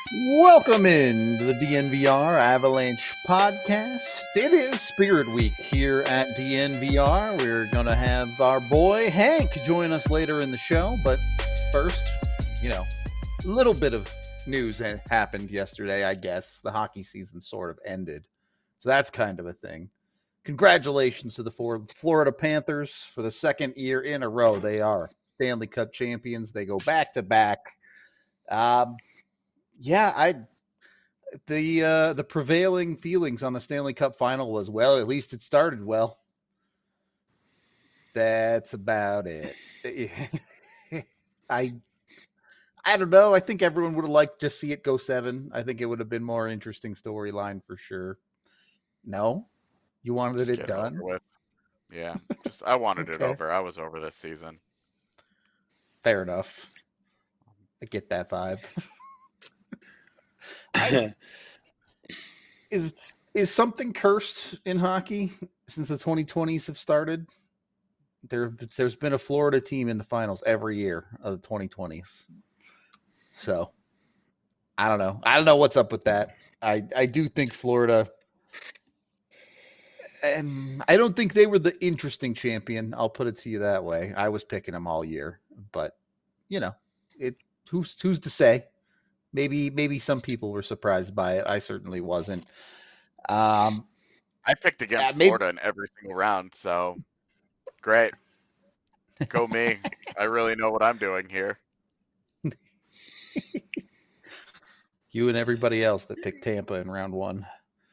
Welcome in to the DNVR Avalanche podcast. It is Spirit Week here at DNVR. We're going to have our boy Hank join us later in the show. But first, a little bit of news that happened yesterday, I guess. The hockey season sort of ended. So that's kind of a thing. Congratulations to the Florida Panthers for the second year in a row. They are Stanley Cup champions. They go back to back. The prevailing feelings on the Stanley Cup final was, well, at least it started well. That's about it. I don't know. I think everyone would have liked to see it go 7. I think it would have been more interesting storyline for sure. No, you wanted it done. Over with. Yeah, I wanted it Okay. over. I was over this season. Fair enough. I get that vibe. Is something cursed in hockey since the 2020s have started? There's been a Florida team in the finals every year of the 2020s. So I don't know. I don't know what's up with that. I do think Florida, and I don't think they were the interesting champion. I'll put it to you that way. I was picking them all year, but who's to say? Maybe some people were surprised by it. I certainly wasn't. I picked against Florida in every single round, so great. Go me. I really know what I'm doing here. You and everybody else that picked Tampa in round 1.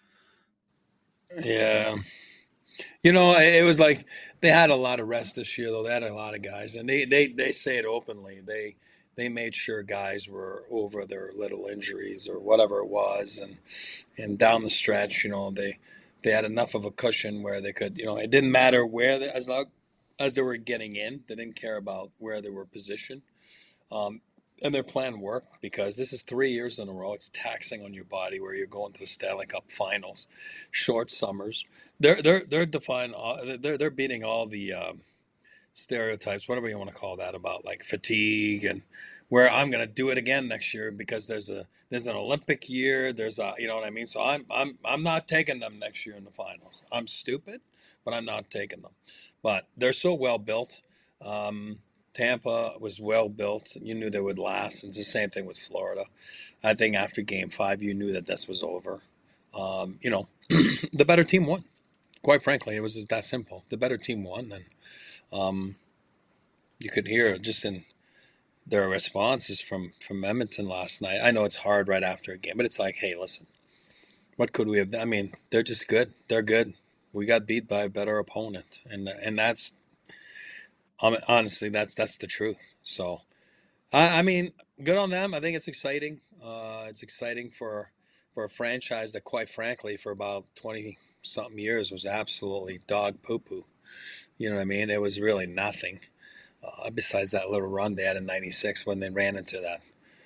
Yeah. It was like they had a lot of rest this year, though. They had a lot of guys, and they say it openly. They made sure guys were over their little injuries or whatever it was, and down the stretch, they had enough of a cushion where they could, it didn't matter where as long as they were getting in, they didn't care about where they were positioned. And their plan worked because this is 3 years in a row. It's taxing on your body where you're going to the Stanley Cup Finals, short summers. They're defying. They're beating all the stereotypes, whatever you want to call that, about like fatigue and where I'm going to do it again next year because there's an Olympic year. There's you know what I mean. So I'm not taking them next year in the finals. I'm stupid, but I'm not taking them. But they're so well built. Tampa was well built. You knew they would last. It's the same thing with Florida. I think after Game 5, you knew that this was over. The better team won. Quite frankly, it was just that simple. The better team won, and you could hear just in their responses from Edmonton last night. I know it's hard right after a game, but it's like, hey, listen, what could we have done? I mean, they're just good. They're good. We got beat by a better opponent, and that's honestly that's the truth. So, I mean, good on them. I think it's exciting. It's exciting for a franchise that, quite frankly, for about 20-something years was absolutely dog poo-poo. You know what I mean? It was really nothing besides that little run they had in '96 when they ran into that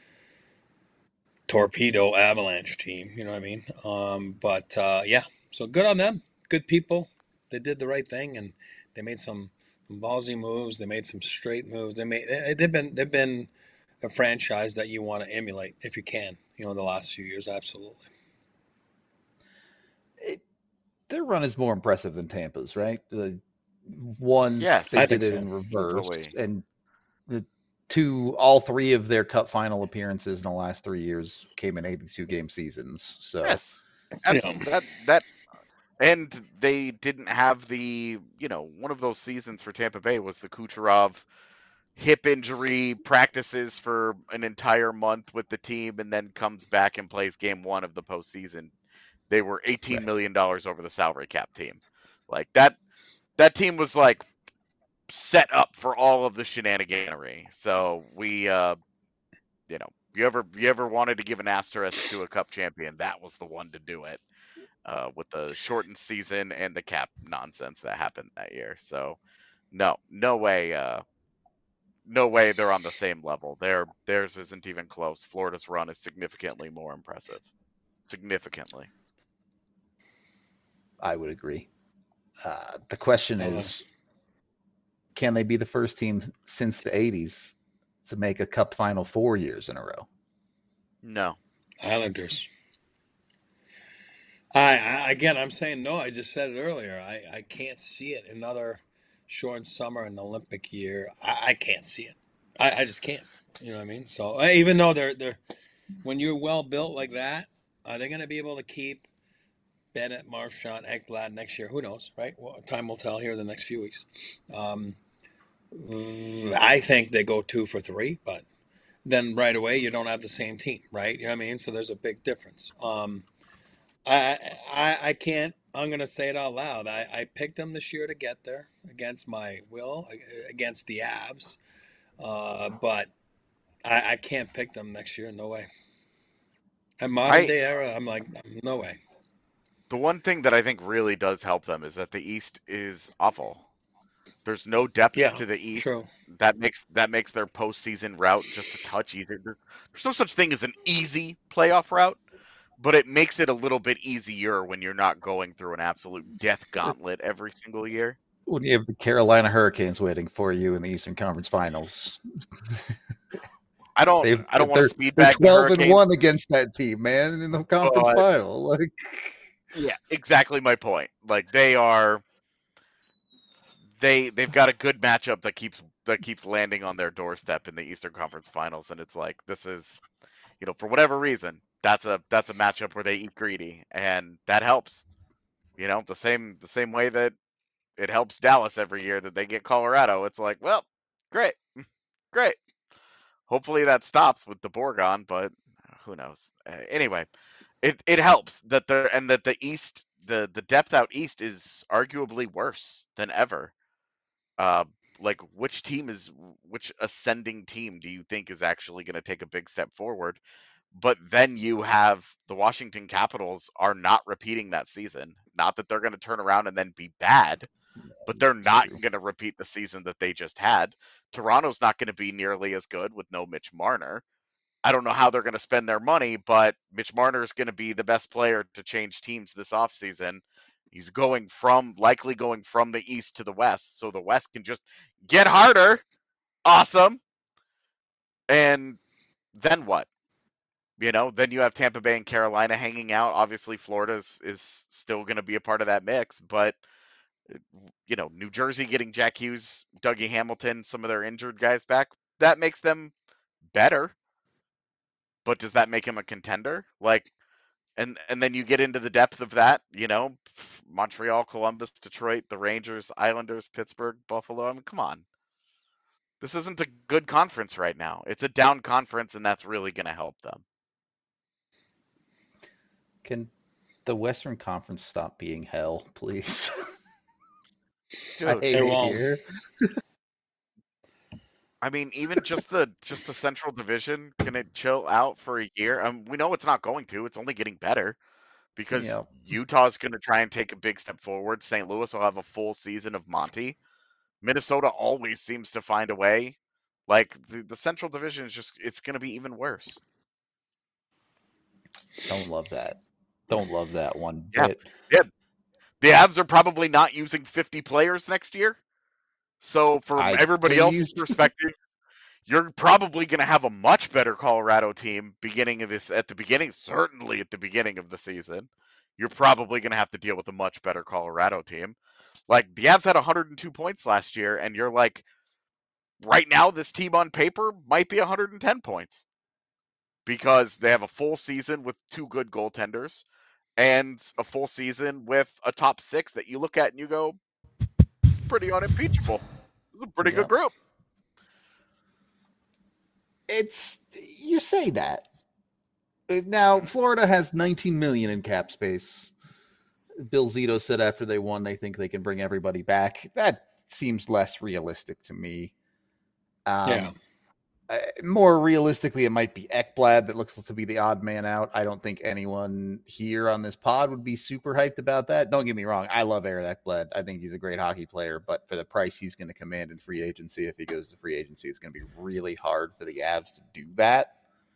torpedo Avalanche team. You know what I mean? Yeah, so good on them. Good people. They did the right thing, and they made some ballsy moves. They made some straight moves. They've been a franchise that you want to emulate if you can. The last few years, absolutely. Their run is more impressive than Tampa's, right? Yes, they did it in reverse, and all 3 of their Cup final appearances in the last 3 years came in 82-game seasons. So yes, absolutely. That and they didn't have the one of those seasons for Tampa Bay was the Kucherov hip injury, practices for an entire month with the team, and then comes back and plays Game 1 of the postseason. They were $18 million over the salary cap team. Like that team was like set up for all of the shenaniganery. So we, you ever wanted to give an asterisk to a Cup champion, that was the one to do it. With the shortened season and the cap nonsense that happened that year. So no way. No way they're on the same level. Theirs isn't even close. Florida's run is significantly more impressive. Significantly. I would agree. The question is, can they be the first team since the 80s to make a Cup final 4 years in a row? No. Islanders. Again, I'm saying no. I just said it earlier. I can't see it. Another short summer and Olympic year. I can't see it. I just can't. You know what I mean? So even though they're when you're well built like that, are they going to be able to keep Bennett, Marchand, Ekblad next year? Who knows, right? Well, time will tell here the next few weeks. I think they go 2 for 3, but then right away you don't have the same team, right? You know what I mean? So there's a big difference. I can't. I'm gonna say it out loud. I picked them this year to get there against my will, against the Avs, but I can't pick them next year. No way. At modern I day era, I'm like, no way. The one thing that I think really does help them is that the East is awful. There's no depth Yeah, to the East. true. That makes their postseason route just a touch easier. There's no such thing as an easy playoff route, but it makes it a little bit easier when you're not going through an absolute death gauntlet every single year. When you have the Carolina Hurricanes waiting for you in the Eastern Conference Finals, I don't want to speed they're back the 12 and Hurricanes. 1 against that team, man, in the conference final. Like, yeah, exactly my point. Like they've got a good matchup that keeps landing on their doorstep in the Eastern Conference Finals, and it's like this is, for whatever reason, that's a matchup where they eat greedy, and that helps. The same way that it helps Dallas every year that they get Colorado. It's like, well, great, great. Hopefully that stops with the Borgon, but who knows? Anyway, it helps that the East, the depth out East is arguably worse than ever. Like which ascending team do you think is actually going to take a big step forward? But then you have the Washington Capitals are not repeating that season. Not that they're going to turn around and then be bad, but they're not going to repeat the season that they just had. Toronto's not going to be nearly as good with no Mitch Marner. I don't know how they're going to spend their money, but Mitch Marner is going to be the best player to change teams this offseason. He's likely going from the East to the West, so the West can just get harder. Awesome. And then what? Then you have Tampa Bay and Carolina hanging out. Obviously, Florida is still going to be a part of that mix, but New Jersey getting Jack Hughes, Dougie Hamilton, some of their injured guys back, that makes them better. But does that make him a contender? And then you get into the depth of that, Montreal, Columbus, Detroit, the Rangers, Islanders, Pittsburgh, Buffalo. I mean, come on. This isn't a good conference right now. It's a down conference, and that's really going to help them. Can the Western Conference stop being hell, please? Dude, I hate it here. I mean, even just the Central Division, can it chill out for a year? We know it's not going to. It's only getting better because Utah's going to try and take a big step forward. St. Louis will have a full season of Monty. Minnesota always seems to find a way. Like the Central Division is it's going to be even worse. Don't love that. Don't love that one bit. Yeah. The Avs are probably not using 50 players next year. So from everybody else's perspective, you're probably going to have a much better Colorado team certainly at the beginning of the season. You're probably going to have to deal with a much better Colorado team. Like the Avs had 102 points last year, and you're like, right now this team on paper might be 110 points because they have a full season with 2 good goaltenders and a full season with a top 6 that you look at and you go, pretty unimpeachable. It's a pretty good group. You say that. Now, Florida has 19 million in cap space. Bill Zito said after they won, they think they can bring everybody back. That seems less realistic to me. More realistically, it might be Ekblad that looks to be the odd man out. I don't think anyone here on this pod would be super hyped about that. Don't get me wrong. I love Aaron Ekblad. I think he's a great hockey player, but for the price he's going to command in free agency, if he goes to free agency, it's going to be really hard for the Avs to do that.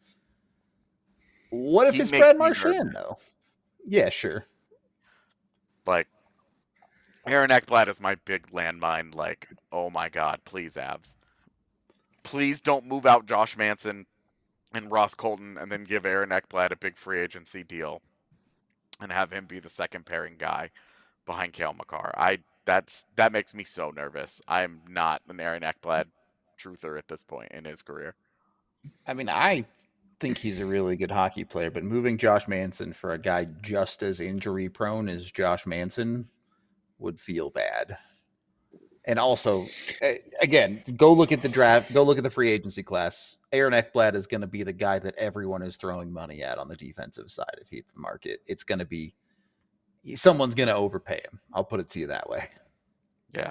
What if it's Brad Marchand, though? Yeah, sure. Like, Aaron Ekblad is my big landmine. Like, oh my God, please, Avs. Please don't move out Josh Manson and Ross Colton, and then give Aaron Ekblad a big free agency deal and have him be the second pairing guy behind Cale Makar. That makes me so nervous. I'm not an Aaron Ekblad truther at this point in his career. I mean, I think he's a really good hockey player, but moving Josh Manson for a guy just as injury prone as Josh Manson would feel bad. And also, again, go look at the draft, go look at the free agency class. Aaron Ekblad is going to be the guy that everyone is throwing money at on the defensive side if he hits the market. It's going to be someone's going to overpay him. I'll put it to you that way. Yeah.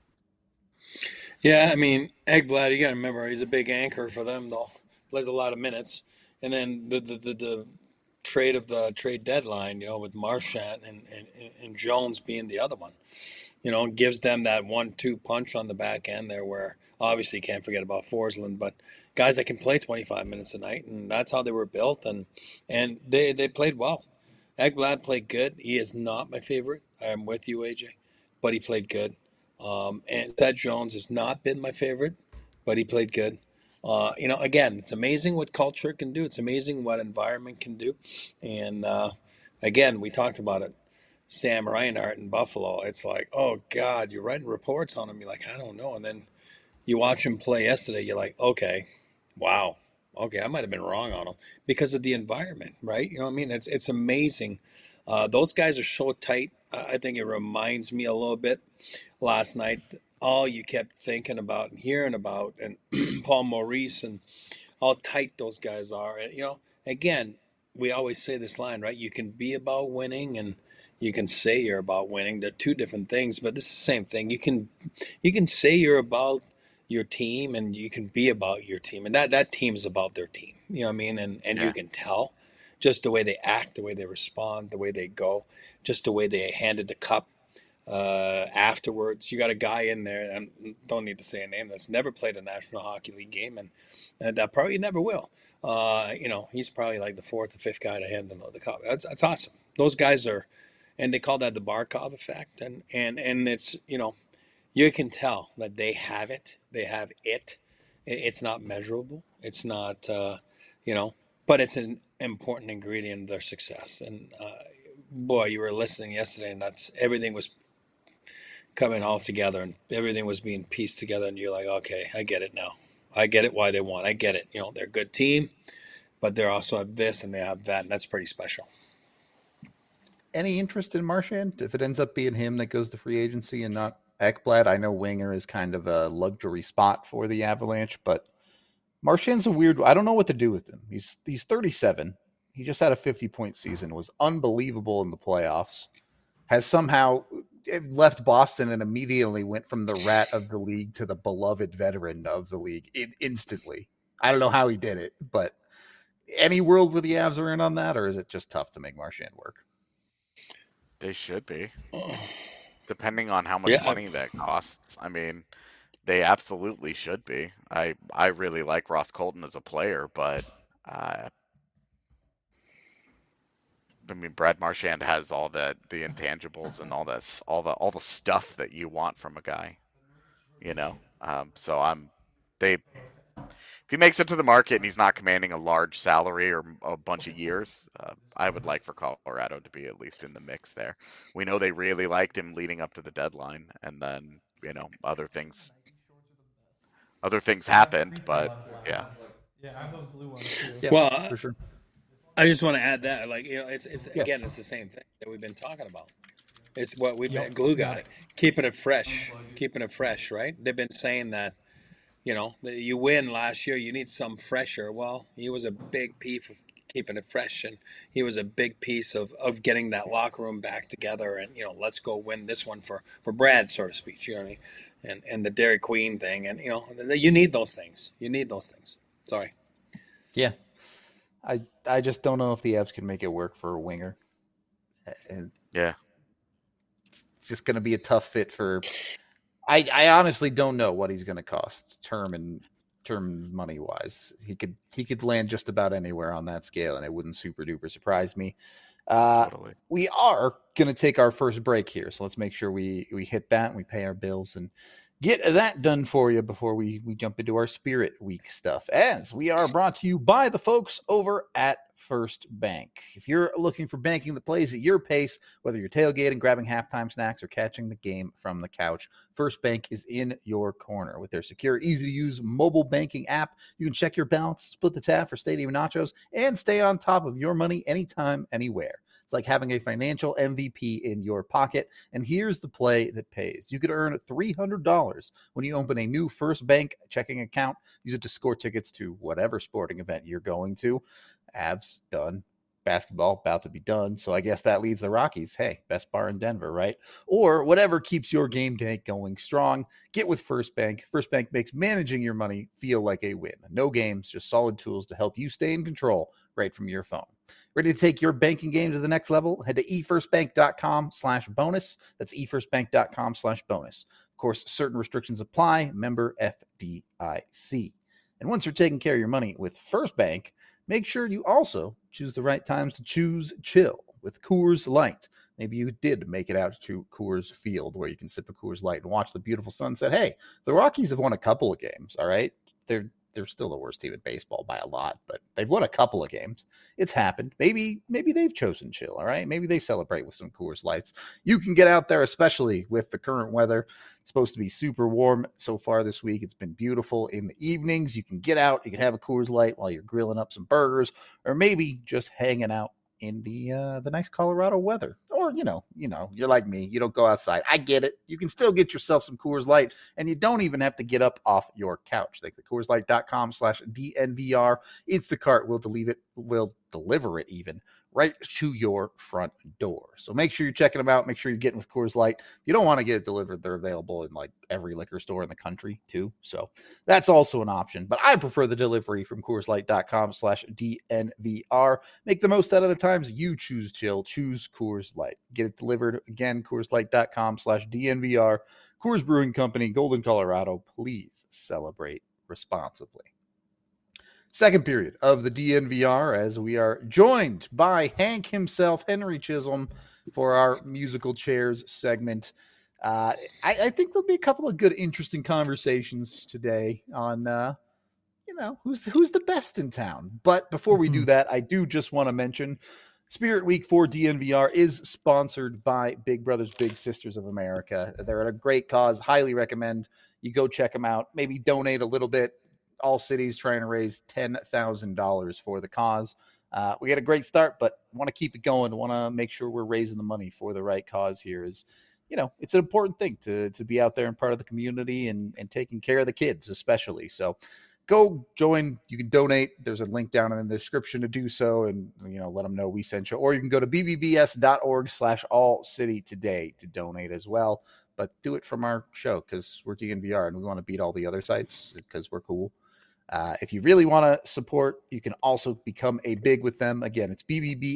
Yeah, I mean, Ekblad, you got to remember, he's a big anchor for them, though. Plays a lot of minutes. And then the trade of the trade deadline, with Marchand and Jones being the other one, gives them that 1-2 punch on the back end there where obviously you can't forget about Forsland, but guys that can play 25 minutes a night, and that's how they were built, and they played well. Ekblad played good. He is not my favorite. I'm with you, AJ, but he played good. And Seth Jones has not been my favorite, but he played good. Again, it's amazing what culture can do. It's amazing what environment can do. And again, we talked about it. Sam Reinhart in Buffalo. It's like, oh God, you're writing reports on him. You're like, I don't know. And then you watch him play yesterday. You're like, okay, wow, okay, I might have been wrong on him because of the environment, right? You know what I mean? It's amazing. Those guys are so tight. I think it reminds me a little bit last night. All you kept thinking about and hearing about, and Paul Maurice and how tight those guys are. And again, we always say this line, right? You can be about winning and you can say you're about winning. They're two different things, but this is the same thing. You can say you're about your team and you can be about your team, and that team is about their team. You know what I mean? And Yeah. You can tell just the way they act, the way they respond, the way they go, just the way they handed the cup afterwards. You got a guy in there, and don't need to say a name, that's never played a National Hockey League game, and that probably never will. He's probably like the fourth or fifth guy to hand the cup. That's awesome. Those guys are, and they call that the Barkov effect, and it's you can tell that they have it. They have it. It's not measurable. It's not but it's an important ingredient of their success. And boy, you were listening yesterday, and that's everything was coming all together, and everything was being pieced together, and you're like, okay, I get it now. I get it why they won. I get it. They're a good team, but they also have this and they have that, and that's pretty special. Any interest in Marchand? If it ends up being him that goes to free agency and not Ekblad, I know winger is kind of a luxury spot for the Avalanche, but Marchand's a weird. I don't know what to do with him. He's 37. He just had a 50-point season. Was unbelievable in the playoffs. Has somehow left Boston and immediately went from the rat of the league to the beloved veteran of the league instantly. I don't know how he did it, but any world where the Avs are in on that, or is it just tough to make Marchand work? They should be, depending on how much money that costs. I mean, they absolutely should be. I really like Ross Colton as a player, but I mean, Brad Marchand has all the intangibles and all the stuff that you want from a guy, So if he makes it to the market and he's not commanding a large salary or a bunch of years, I would like for Colorado to be at least in the mix there. We know they really liked him leading up to the deadline, and then other things happened, but yeah. Yeah, I have those blue ones too. Yeah, Well, for sure. I just want to add that, it's again, it's the same thing that we've been talking about. It's what we've been glue guy, keeping it fresh, right? They've been saying that, you win last year, you need some fresher. Well, he was a big piece of keeping it fresh, and he was a big piece of getting that locker room back together, and let's go win this one for Brad, so to speak. You know what I mean? And the Dairy Queen thing, and you need those things. Sorry. Yeah. I just don't know if the Avs can make it work for a winger. And yeah, it's just going to be a tough fit for. I honestly don't know what he's going to cost term money wise. He could land just about anywhere on that scale, and it wouldn't super duper surprise me. totally. We are going to take our first break here, so let's make sure we hit that and we pay our bills and get that done for you before we jump into our Spirit Week stuff, as we are brought to you by the folks over at First Bank. If you're looking for banking that plays at your pace, whether you're tailgating, grabbing halftime snacks, or catching the game from the couch, First Bank is in your corner. With their secure, easy-to-use mobile banking app, you can check your balance, split the tab for stadium nachos, and stay on top of your money anytime, anywhere. It's like having a financial MVP in your pocket. And here's the play that pays. You could earn $300 when you open a new First Bank checking account. Use it to score tickets to whatever sporting event you're going to. Avs, done. Basketball, about to be done. So I guess that leaves the Rockies. Hey, best bar in Denver, right? Or whatever keeps your game day going strong. Get with First Bank. First Bank makes managing your money feel like a win. No games, just solid tools to help you stay in control right from your phone. Ready to take your banking game to the next level? Head to efirstbank.com/bonus. That's efirstbank.com/bonus. Of course, certain restrictions apply. Member FDIC. And once you're taking care of your money with First Bank, make sure you also choose the right times to choose chill with Coors Light. Maybe you did make it out to Coors Field where you can sip a Coors Light and watch the beautiful sunset. Hey, the Rockies have won a couple of games, all right? They're still the worst team in baseball by a lot, but they've won a couple of games. It's happened. Maybe they've chosen chill, all right? Maybe they celebrate with some Coors Lights. You can get out there, especially with the current weather. It's supposed to be super warm so far this week. It's been beautiful in the evenings. You can get out. You can have a Coors Light while you're grilling up some burgers, or maybe just hanging out in the nice Colorado weather. Or, you're like me. You don't go outside. I get it. You can still get yourself some Coors Light, and you don't even have to get up off your couch. Like the CoorsLight.com/DNVR. Instacart will deliver it even right to your front door. So make sure you're checking them out. Make sure you're getting with Coors Light. If you don't want to get it delivered, they're available in like every liquor store in the country too. So that's also an option. But I prefer the delivery from CoorsLight.com/DNVR. Make the most out of the times you choose chill. Choose Coors Light. Get it delivered again. CoorsLight.com/DNVR. Coors Brewing Company, Golden, Colorado. Please celebrate responsibly. Second period of the DNVR, as we are joined by Hank himself, Henry Chisholm, for our musical chairs segment. I think there'll be a couple of good, interesting conversations today on, who's the best in town. But before we do that, I do just want to mention Spirit Week for DNVR is sponsored by Big Brothers Big Sisters of America. They're at a great cause. Highly recommend you go check them out. Maybe donate a little bit. All cities trying to raise $10,000 for the cause. We had a great start, but want to keep it going. Want to make sure we're raising the money for the right cause here. It's an important thing to be out there and part of the community and taking care of the kids, especially. So go join. You can donate. There's a link down in the description to do so, and let them know we sent you. Or you can go to bbbs.org/allcity today to donate as well. But do it from our show because we're DNVR and we want to beat all the other sites because we're cool. If you really want to support, you can also become a big with them. Again, it's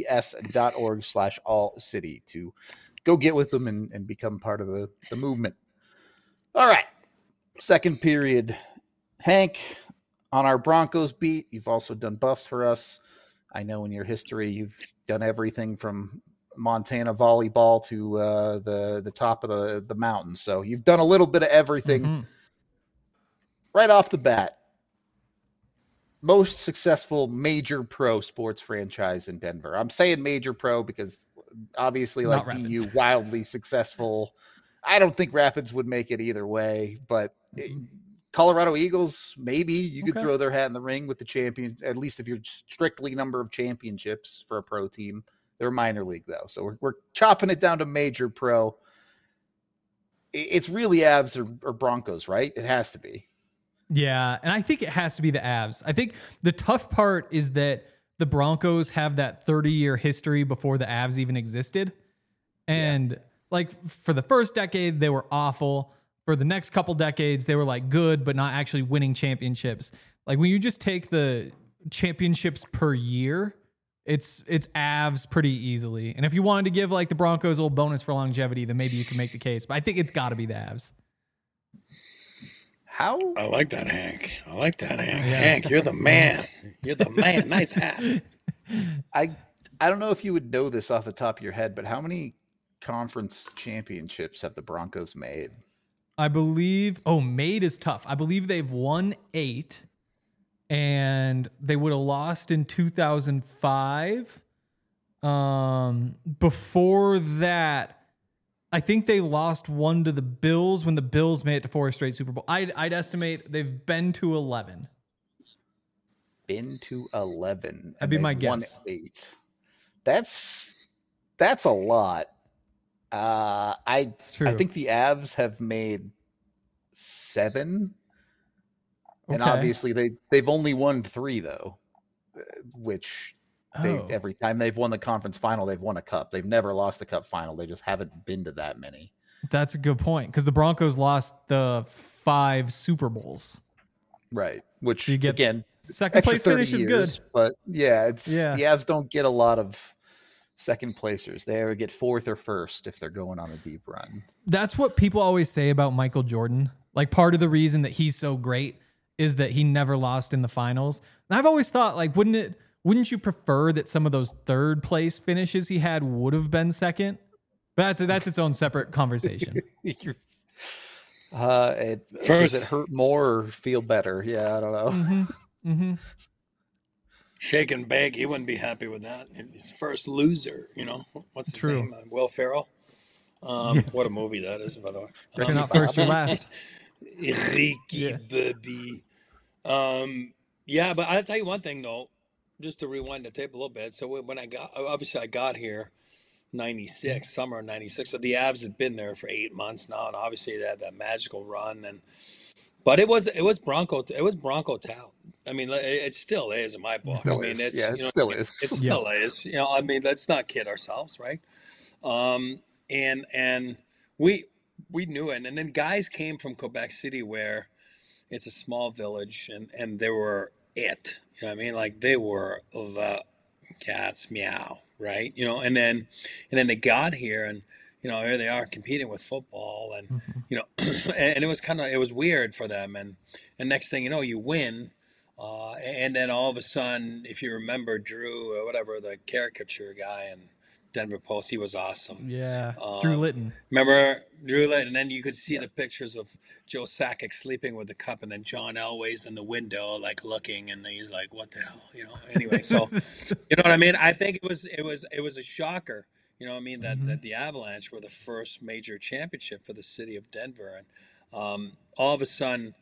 bbbs.org/allcity to go get with them and become part of the movement. All right. Second period. Hank, on our Broncos beat, you've also done buffs for us. I know in your history, you've done everything from Montana volleyball to the top of the mountain. So you've done a little bit of everything. Right off the bat. Most successful major pro sports franchise in Denver. I'm saying major pro because obviously like DU, wildly successful. I don't think Rapids would make it either way, but Colorado Eagles, maybe you could throw their hat in the ring with the champion, at least if you're strictly number of championships for a pro team. They're minor league though. So we're chopping it down to major pro. It's really Avs or Broncos, right? It has to be. Yeah, and I think it has to be the Avs. I think the tough part is that the Broncos have that 30-year history before the Avs even existed. And for the first decade, they were awful. For the next couple decades, they were like good, but not actually winning championships. Like when you just take the championships per year, it's Avs pretty easily. And if you wanted to give like the Broncos a little bonus for longevity, then maybe you can make the case. But I think it's got to be the Avs. How? I like that, Hank. Yeah. Hank, you're the man. Nice hat. I don't know if you would know this off the top of your head, but how many conference championships have the Broncos made? I believe. Oh, made is tough. I believe they've won 8, and they would have lost in 2005. Before that, I think they lost 1 to the Bills when the Bills made it to 4 straight Super Bowl. I'd estimate they've been to 11. Been to 11. That'd be my won guess. 8. That's a lot. It's true. I think the Avs have made 7, and Okay. obviously they've only won 3 though, which every time they've won the conference final, they've won a cup. They've never lost the cup final. They just haven't been to that many. That's a good point because the Broncos lost the 5 Super Bowls. Right. Which You get again, second extra place 30 finish is years, good. but yeah, the Yeah. Avs don't get a lot of second placers. They ever get 4th or 1st if they're going on a deep run. That's what people always say about Michael Jordan. Like part of the reason that he's so great is that he never lost in the finals. And I've always thought, like, wouldn't you prefer that some of those 3rd place finishes he had would have been second? But that's its own separate conversation. Does First- it hurt more or feel better? Yeah, I don't know. Mm-hmm. Shake and bake, he wouldn't be happy with that. His first loser, what's his True. name? Will Ferrell. What a movie that is, by the way. If you're not first, you're last. Ricky Yeah. Bobby. Yeah, but I'll tell you one thing though, just to rewind the tape a little bit. So when I got here, 96, summer of 96. So the Avs had been there for 8 months now, and obviously they had that magical run. But it was Bronco town. I mean, it still is in my book. Still I mean, is. it's Yeah, it still is. It still is. I mean, let's not kid ourselves, right? And we knew it. And then guys came from Quebec City, where it's a small village, and they were it. You know what I mean? Like they were the cats meow, right? And then they got here, and here they are competing with football, and and it was weird for them. And next thing you know, you win. And then all of a sudden, if you remember Drew, or whatever, the caricature guy in Denver Post, he was awesome. Yeah. Drew Litton. Remember Drew Litton? And then you could see the pictures of Joe Sakic sleeping with the cup, and then John Elway's in the window, like looking, and he's like, "What the hell?" Anyway, so you know what I mean? I think it was a shocker. You know what I mean? That the Avalanche were the first major championship for the city of Denver, and all of a sudden.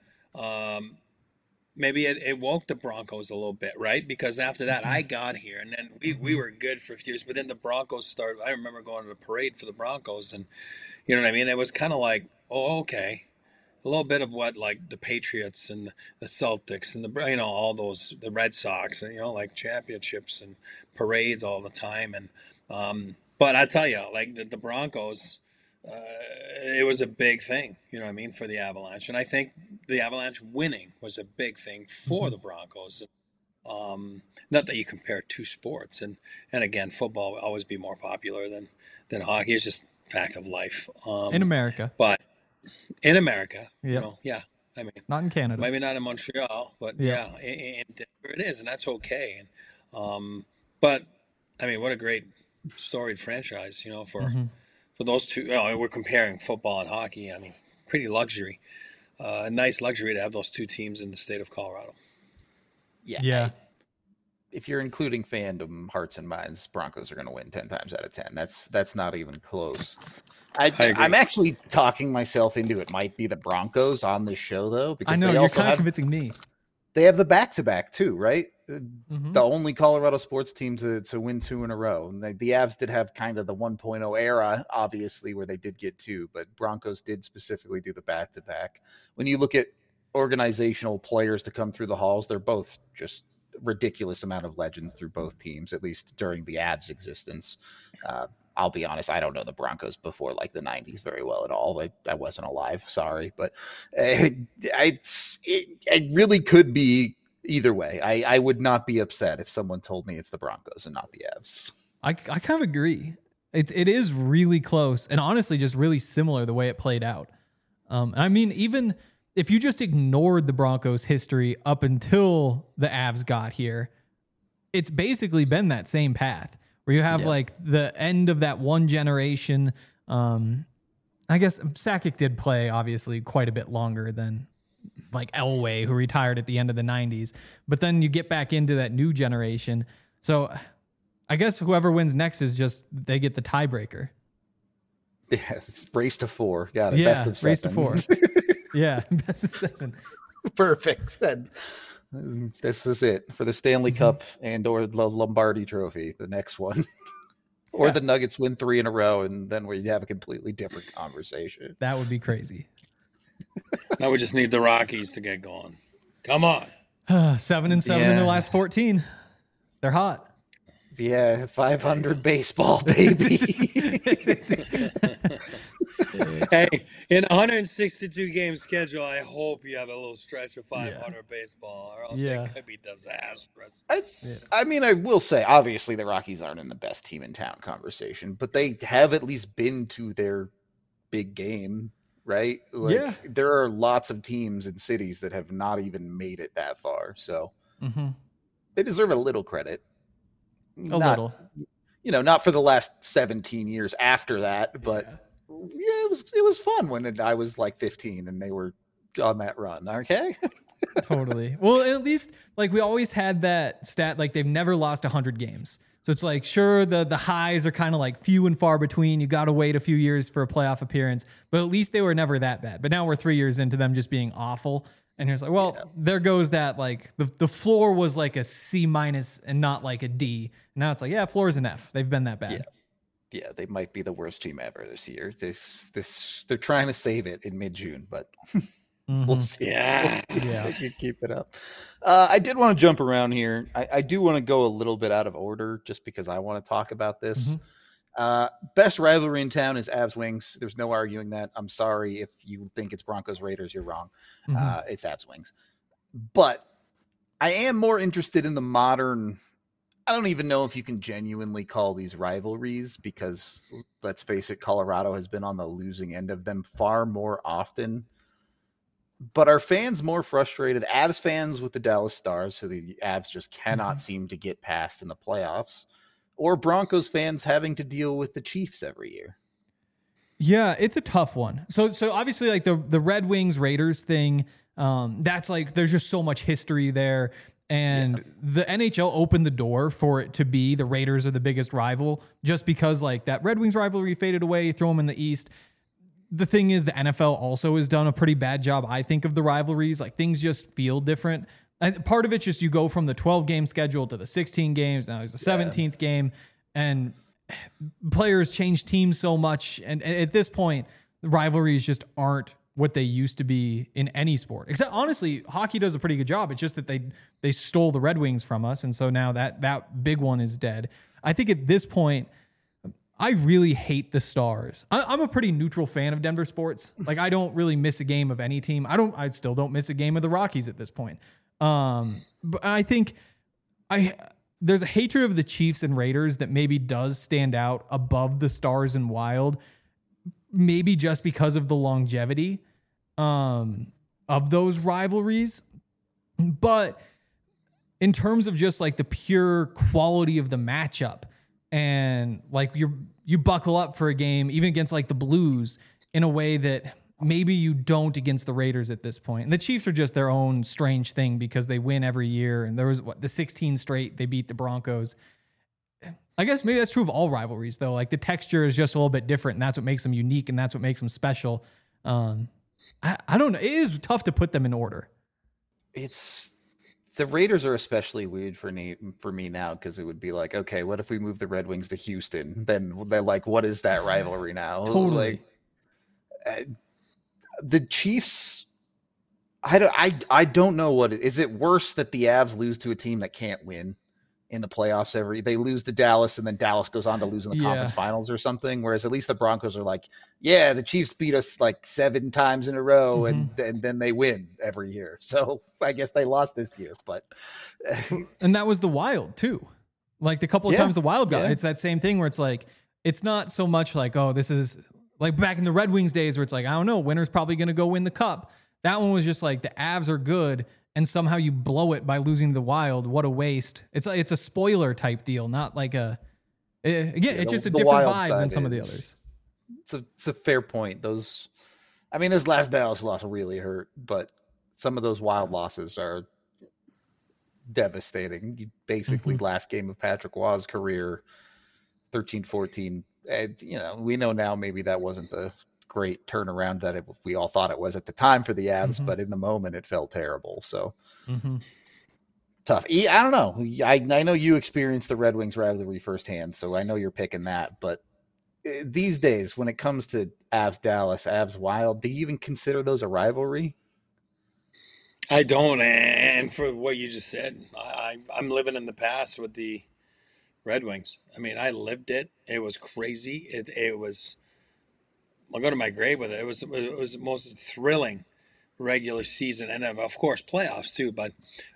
Maybe it woke the Broncos a little bit, right? Because after that, I got here, and then we were good for a few years. But then the Broncos started. I remember going to the parade for the Broncos, and you know what I mean? It was kind of like, oh, okay. A little bit of what, like the Patriots and the Celtics and all those, the Red Sox, and like championships and parades all the time. And but I tell you, like the Broncos, it was a big thing, you know what I mean, for the Avalanche. And I think the Avalanche winning was a big thing for the Broncos. Not that you compare two sports, and again, football will always be more popular than hockey. It's just fact of life. In America. But in America, Yep. yeah. I mean, Not in Canada. maybe not in Montreal, but Yeah. in Denver it is, and that's okay. And but I mean, what a great storied franchise, for those two. We're comparing football and hockey. I mean, pretty luxury, nice luxury to have those two teams in the state of Colorado. Yeah. If you're including fandom, hearts and minds, Broncos are going to win 10 times out of 10. That's not even close. I agree. I'm actually talking myself into it. Might be the Broncos on this show though, because I know they you're also kind of have, convincing me. they have the back-to-back too, right? Mhm. The only Colorado sports team to win 2 in a row. And the Avs did have kind of the 1.0 era, obviously, where they did get 2, but Broncos did specifically do the back-to-back. When you look at organizational players to come through the halls, they're both just ridiculous amount of legends through both teams, at least during the Avs existence. I'll be honest, I don't know the Broncos before like the 90s very well at all. I wasn't alive, sorry, but it really could be either way. I would not be upset if someone told me it's the Broncos and not the Avs. I kind of agree. It is really close, and honestly, just really similar the way it played out. I mean, even if you just ignored the Broncos' history up until the Avs got here, it's basically been that same path where you have like the end of that one generation. I I guess Sakic did play obviously quite a bit longer than like Elway, who retired at the end of the 90s. But then you get back into that new generation. So I guess whoever wins next is just they get the tiebreaker. Yeah, it's race to 4. Got it. Yeah, Best of 7. race to 4. Yeah, best of 7. Perfect. This is it for the Stanley Cup and or the Lombardi Trophy. The next one, or the Nuggets win 3 in a row, and then we have a completely different conversation. That would be crazy. Now we just need the Rockies to get going. Come on. 7-7 in their last 14. They're hot. Yeah, 500 baseball, baby. Hey, in a 162 game schedule, I hope you have a little stretch of 500 baseball, or else it could be disastrous. I mean, I will say, obviously, the Rockies aren't in the best team in town conversation, but they have at least been to their big game, right? Like, there are lots of teams and cities that have not even made it that far, so they deserve a little credit. A little. You know, not for the last 17 years after that, but it was fun when I was like 15 and they were on that run. Okay. Totally. Well, at least like we always had that stat, like they've never lost 100 games. So it's like, sure, the highs are kind of like few and far between. You got to wait a few years for a playoff appearance, but at least they were never that bad. But now we're 3 years into them just being awful. And it's like, well, there goes that, like the floor was like a C- and not like a D. Now it's like, floor is an F. They've been that bad. Yeah, they might be the worst team ever this year. They're trying to save it in mid-June, but we'll see. Yeah. They can keep it up. I did want to jump around here. I do want to go a little bit out of order just because I want to talk about this. Best rivalry in town is Avs Wings. There's no arguing that. I'm sorry if you think it's Broncos Raiders, you're wrong. It's Avs Wings. But I am more interested in the modern. I don't even know if you can genuinely call these rivalries because let's face it, Colorado has been on the losing end of them far more often. But are fans more frustrated? Avs fans with the Dallas Stars, who the Avs just cannot seem to get past in the playoffs, or Broncos fans having to deal with the Chiefs every year? Yeah, it's a tough one. So obviously, like the Red Wings Raiders thing, that's like there's just so much history there, and the NHL opened the door for it to be the Raiders are the biggest rival, just because like that Red Wings rivalry faded away. You throw them in the East. The thing is, the NFL also has done a pretty bad job, I think, of the rivalries. Like things just feel different. And part of it's just you go from the 12 game schedule to the 16 games. Now there's the 17th game, and players change teams so much. And at this point, the rivalries just aren't what they used to be in any sport. Except honestly, hockey does a pretty good job. It's just that they stole the Red Wings from us, and so now that big one is dead. I think at this point, I really hate the Stars. I'm a pretty neutral fan of Denver sports. Like I don't really miss a game of any team. I still don't miss a game of the Rockies at this point. But I think there's a hatred of the Chiefs and Raiders that maybe does stand out above the Stars and Wild, maybe just because of the longevity of those rivalries. But in terms of just like the pure quality of the matchup, and like you buckle up for a game, even against like the Blues, in a way that maybe you don't against the Raiders at this point. And the Chiefs are just their own strange thing because they win every year. And there was the 16 straight, they beat the Broncos. I guess maybe that's true of all rivalries though. Like the texture is just a little bit different, and that's what makes them unique, and that's what makes them special. I don't know. It is tough to put them in order. The Raiders are especially weird for me now because it would be like, okay, what if we move the Red Wings to Houston? Then they're like, what is that rivalry now? Totally. Like, the Chiefs, I don't know what is it worse that the Avs lose to a team that can't win in the playoffs they lose to Dallas, and then Dallas goes on to lose in the conference finals or something. Whereas at least the Broncos are like, yeah, the Chiefs beat us like 7 times in a row, and then they win every year. So I guess they lost this year, but and that was the Wild too. Like the couple of times the Wild got it's that same thing where it's like, it's not so much like, oh, this is like back in the Red Wings days where it's like, I don't know, winner's probably going to go win the cup. That one was just like the Avs are good, and somehow you blow it by losing to the Wild. What a waste. It's a spoiler type deal, not like it's just a different vibe than some of the others. it's a fair point. This last Dallas loss really hurt, but some of those wild losses are devastating. Basically, last game of Patrick Waugh's career, 13-14. And, we know now maybe that wasn't the great turnaround that we all thought it was at the time for the Avs, but in the moment it felt terrible. So tough. I don't know. I know you experienced the Red Wings rivalry firsthand, so I know you're picking that. But these days, when it comes to Avs Dallas, Avs Wild, do you even consider those a rivalry? I don't. And for what you just said, I'm living in the past with the Red Wings. I mean, I lived it. It was crazy. It was. I'll go to my grave with it. It was the most thrilling regular season, and of course playoffs too. But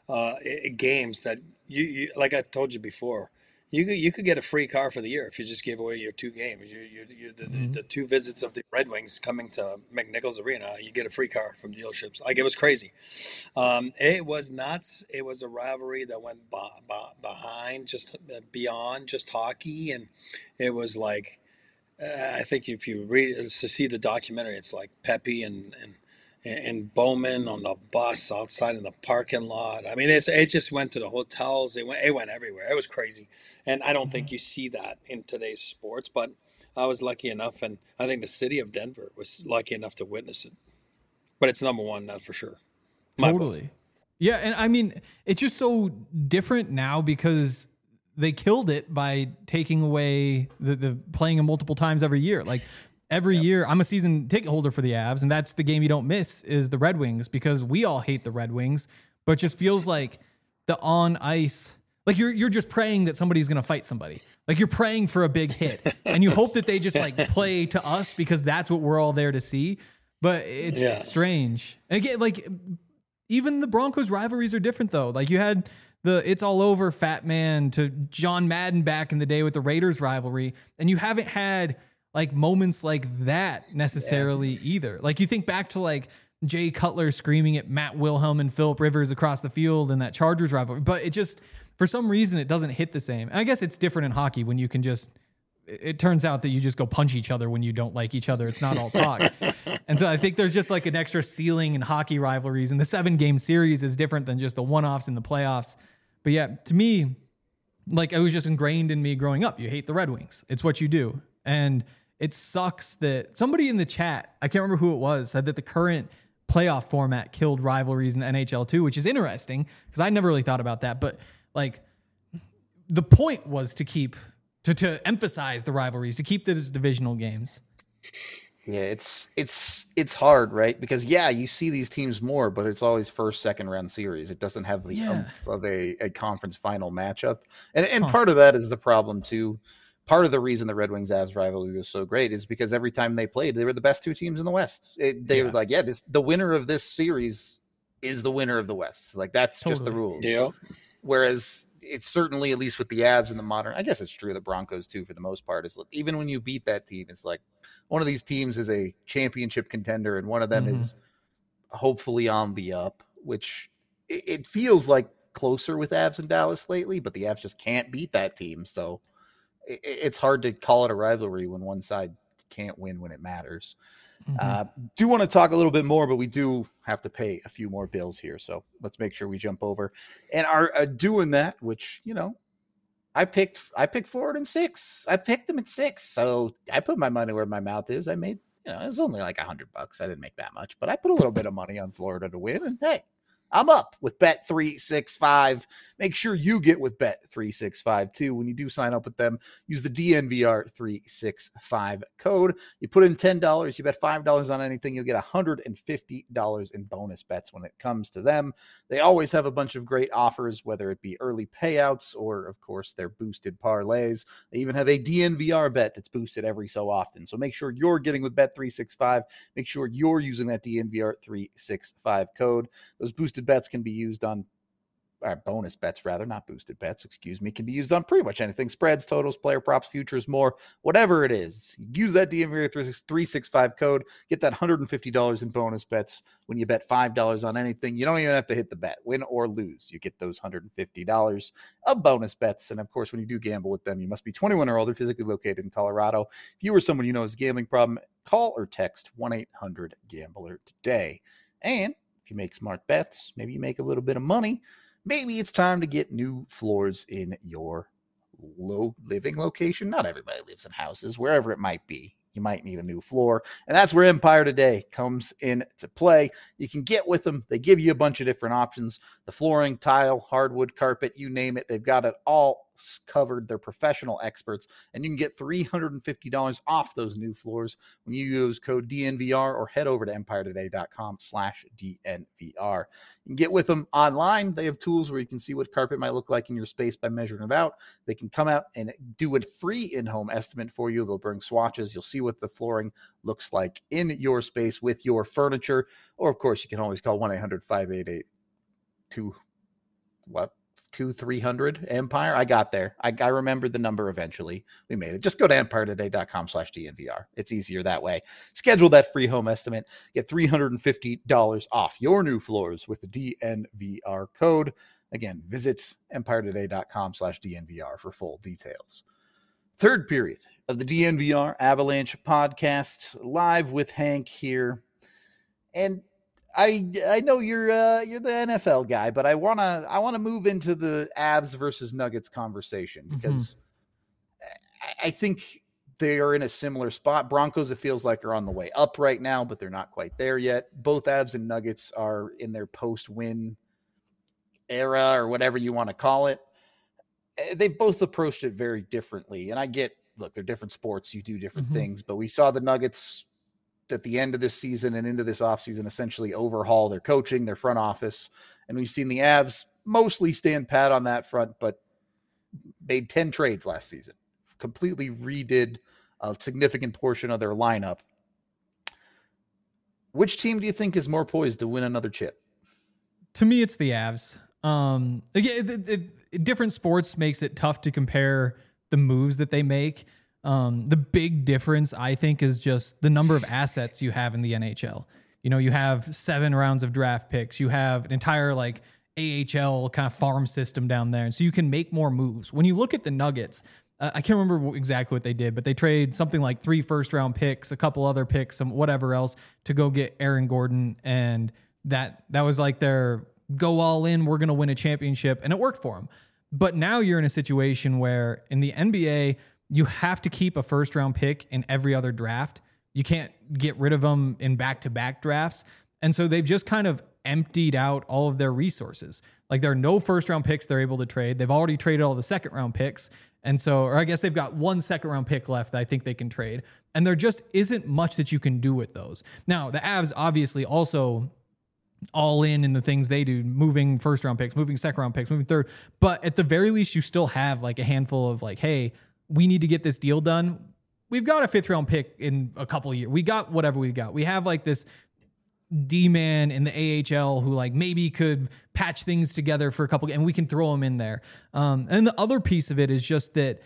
games that you like I've told you before, you could get a free car for the year if you just gave away your two games. The two visits of the Red Wings coming to McNichols Arena, you get a free car from dealerships. Like, it was crazy. It was nuts. It was a rivalry that went behind, just beyond just hockey, and it was like. I think if you read to see the documentary, it's like Pepe and Bowman on the bus outside in the parking lot. I mean, it just went to the hotels. It went everywhere. It was crazy, and I don't think you see that in today's sports. But I was lucky enough, and I think the city of Denver was lucky enough to witness it. But it's number one, that's for sure. Totally. Yeah, and I mean, it's just so different now because they killed it by taking away the playing them multiple times every year. Like, every year, I'm a season ticket holder for the Avs, and that's the game you don't miss is the Red Wings, because we all hate the Red Wings, but it just feels like the on ice, like you're just praying that somebody's going to fight somebody. Like, you're praying for a big hit, and you hope that they just like play to us because that's what we're all there to see. But it's strange. And again, like, even the Broncos rivalries are different though. Like, you had It's All Over Fat Man to John Madden back in the day with the Raiders rivalry. And you haven't had like moments like that necessarily either. Like, you think back to like Jay Cutler screaming at Matt Wilhelm and Phillip Rivers across the field in that Chargers rivalry. But it just, for some reason, it doesn't hit the same. And I guess it's different in hockey when you can just, it turns out that you just go punch each other when you don't like each other. It's not all talk. And so I think there's just like an extra ceiling in hockey rivalries. And the 7-game series is different than just the one-offs in the playoffs. But yeah, to me, like, it was just ingrained in me growing up. You hate the Red Wings. It's what you do. And it sucks that somebody in the chat, I can't remember who it was, said that the current playoff format killed rivalries in the NHL too, which is interesting because I never really thought about that. But like, the point was to keep, to emphasize the rivalries, to keep those divisional games. Yeah, it's hard, right? Because you see these teams more, but it's always first, second round series. It doesn't have the oomph of a conference final matchup. And part of that is the problem too. Part of the reason the Red Wings Avs rivalry was so great is because every time they played, they were the best two teams in the West. They were like, the winner of this series is the winner of the West. Like, that's just the rules. Yeah. Whereas it's certainly, at least with the Avs in the modern, I guess it's true, the Broncos too, for the most part, is even when you beat that team, it's like one of these teams is a championship contender and one of them is hopefully on the up, which it feels like closer with Avs and Dallas lately, but the Avs just can't beat that team. So it's hard to call it a rivalry when one side can't win when it matters. Do want to talk a little bit more, but we do have to pay a few more bills here. So let's make sure we jump over and are doing that, which, I picked Florida in 6. I picked them at 6. So I put my money where my mouth is. I made, it was only like $100. I didn't make that much, but I put a little bit of money on Florida to win. And hey, I'm up with Bet365. Make sure you get with Bet365 too. When you do sign up with them, use the DNVR365 code. You put in $10, you bet $5 on anything, you'll get $150 in bonus bets when it comes to them. They always have a bunch of great offers, whether it be early payouts or, of course, their boosted parlays. They even have a DNVR bet that's boosted every so often. So make sure you're getting with Bet365. Make sure you're using that DNVR365 code. Those boosted bets can be used on bonus bets rather, not boosted bets, excuse me, can be used on pretty much anything. Spreads, totals, player props, futures, more, whatever it is. Use that DNVR 365 code, get that $150 in bonus bets when you bet $5 on anything. You don't even have to hit the bet, win or lose. You get those $150 of bonus bets. And of course, when you do gamble with them, you must be 21 or older, physically located in Colorado. If you or someone you know has a gambling problem, call or text 1-800-GAMBLER today. And if you make smart bets, maybe you make a little bit of money, maybe it's time to get new floors in your living location. Not everybody lives in houses, wherever it might be. You might need a new floor. And that's where Empire Today comes into play. You can get with them. They give you a bunch of different options. The flooring, tile, hardwood, carpet, you name it. They've got it all covered. They're professional experts. And you can get $350 off those new floors when you use code DNVR or head over to EmpireToday.com/DNVR. You can get with them online. They have tools where you can see what carpet might look like in your space by measuring it out. They can come out and do a free in-home estimate for you. They'll bring swatches. You'll see what the flooring looks like in your space with your furniture. Or, of course, you can always call 1-800-588-2300 Empire. I got there. I remembered the number eventually. We made it. Just go to EmpireToday.com/DNVR. It's easier that way. Schedule that free home estimate. Get $350 off your new floors with the DNVR code. Again, visit EmpireToday.com/DNVR for full details. Third period of the DNVR Avalanche podcast, live with Hank here. And I know you're the NFL guy, but I wanna move into the Avs versus Nuggets conversation because I think they are in a similar spot. Broncos, it feels like, are on the way up right now, but they're not quite there yet. Both Avs and Nuggets are in their post-win era or whatever you want to call it. They've both approached it very differently. And I get, look, they're different sports. You do different things, but we saw the Nuggets at the end of this season and into this offseason essentially overhaul their coaching, their front office. And we've seen the Avs mostly stand pat on that front, but made 10 trades last season, completely redid a significant portion of their lineup. Which team do you think is more poised to win another chip? To me, it's the Avs. Again, different sports makes it tough to compare the moves that they make. The big difference, I think, is just the number of assets you have in the NHL. You know, you have 7 rounds of draft picks. You have an entire AHL kind of farm system down there. And so you can make more moves. When you look at the Nuggets, I can't remember exactly what they did, but they trade something like 3 first-round picks, a couple other picks, some whatever else to go get Aaron Gordon. And that was like their go all in, we're going to win a championship. And it worked for them. But now you're in a situation where in the NBA, you have to keep a first-round pick in every other draft. You can't get rid of them in back-to-back drafts. And so they've just kind of emptied out all of their resources. Like, there are no first-round picks they're able to trade. They've already traded all the second-round picks. And so, or I guess they've got 1 second-round pick left that I think they can trade. And there just isn't much that you can do with those. Now, the Avs obviously also all in the things they do, moving first-round picks, moving second-round picks, moving third. But at the very least, you still have a handful of hey, we need to get this deal done. We've got a 5th-round pick in a couple of years. We got whatever we got. We have this D-man in the AHL who maybe could patch things together for a couple, and we can throw him in there. And the other piece of it is just that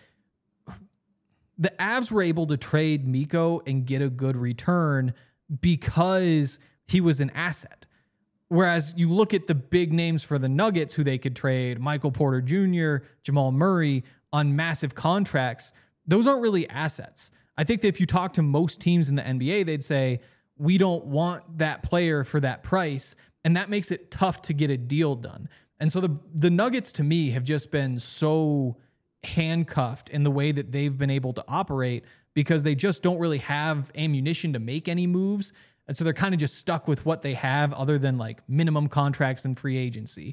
the Avs were able to trade Mikko and get a good return because he was an asset. Whereas you look at the big names for the Nuggets who they could trade, Michael Porter Jr., Jamal Murray, on massive contracts, those aren't really assets. I think that if you talk to most teams in the NBA, they'd say, we don't want that player for that price. And that makes it tough to get a deal done. And so the Nuggets, to me, have just been so handcuffed in the way that they've been able to operate because they just don't really have ammunition to make any moves. And so they're kind of just stuck with what they have other than minimum contracts and free agency.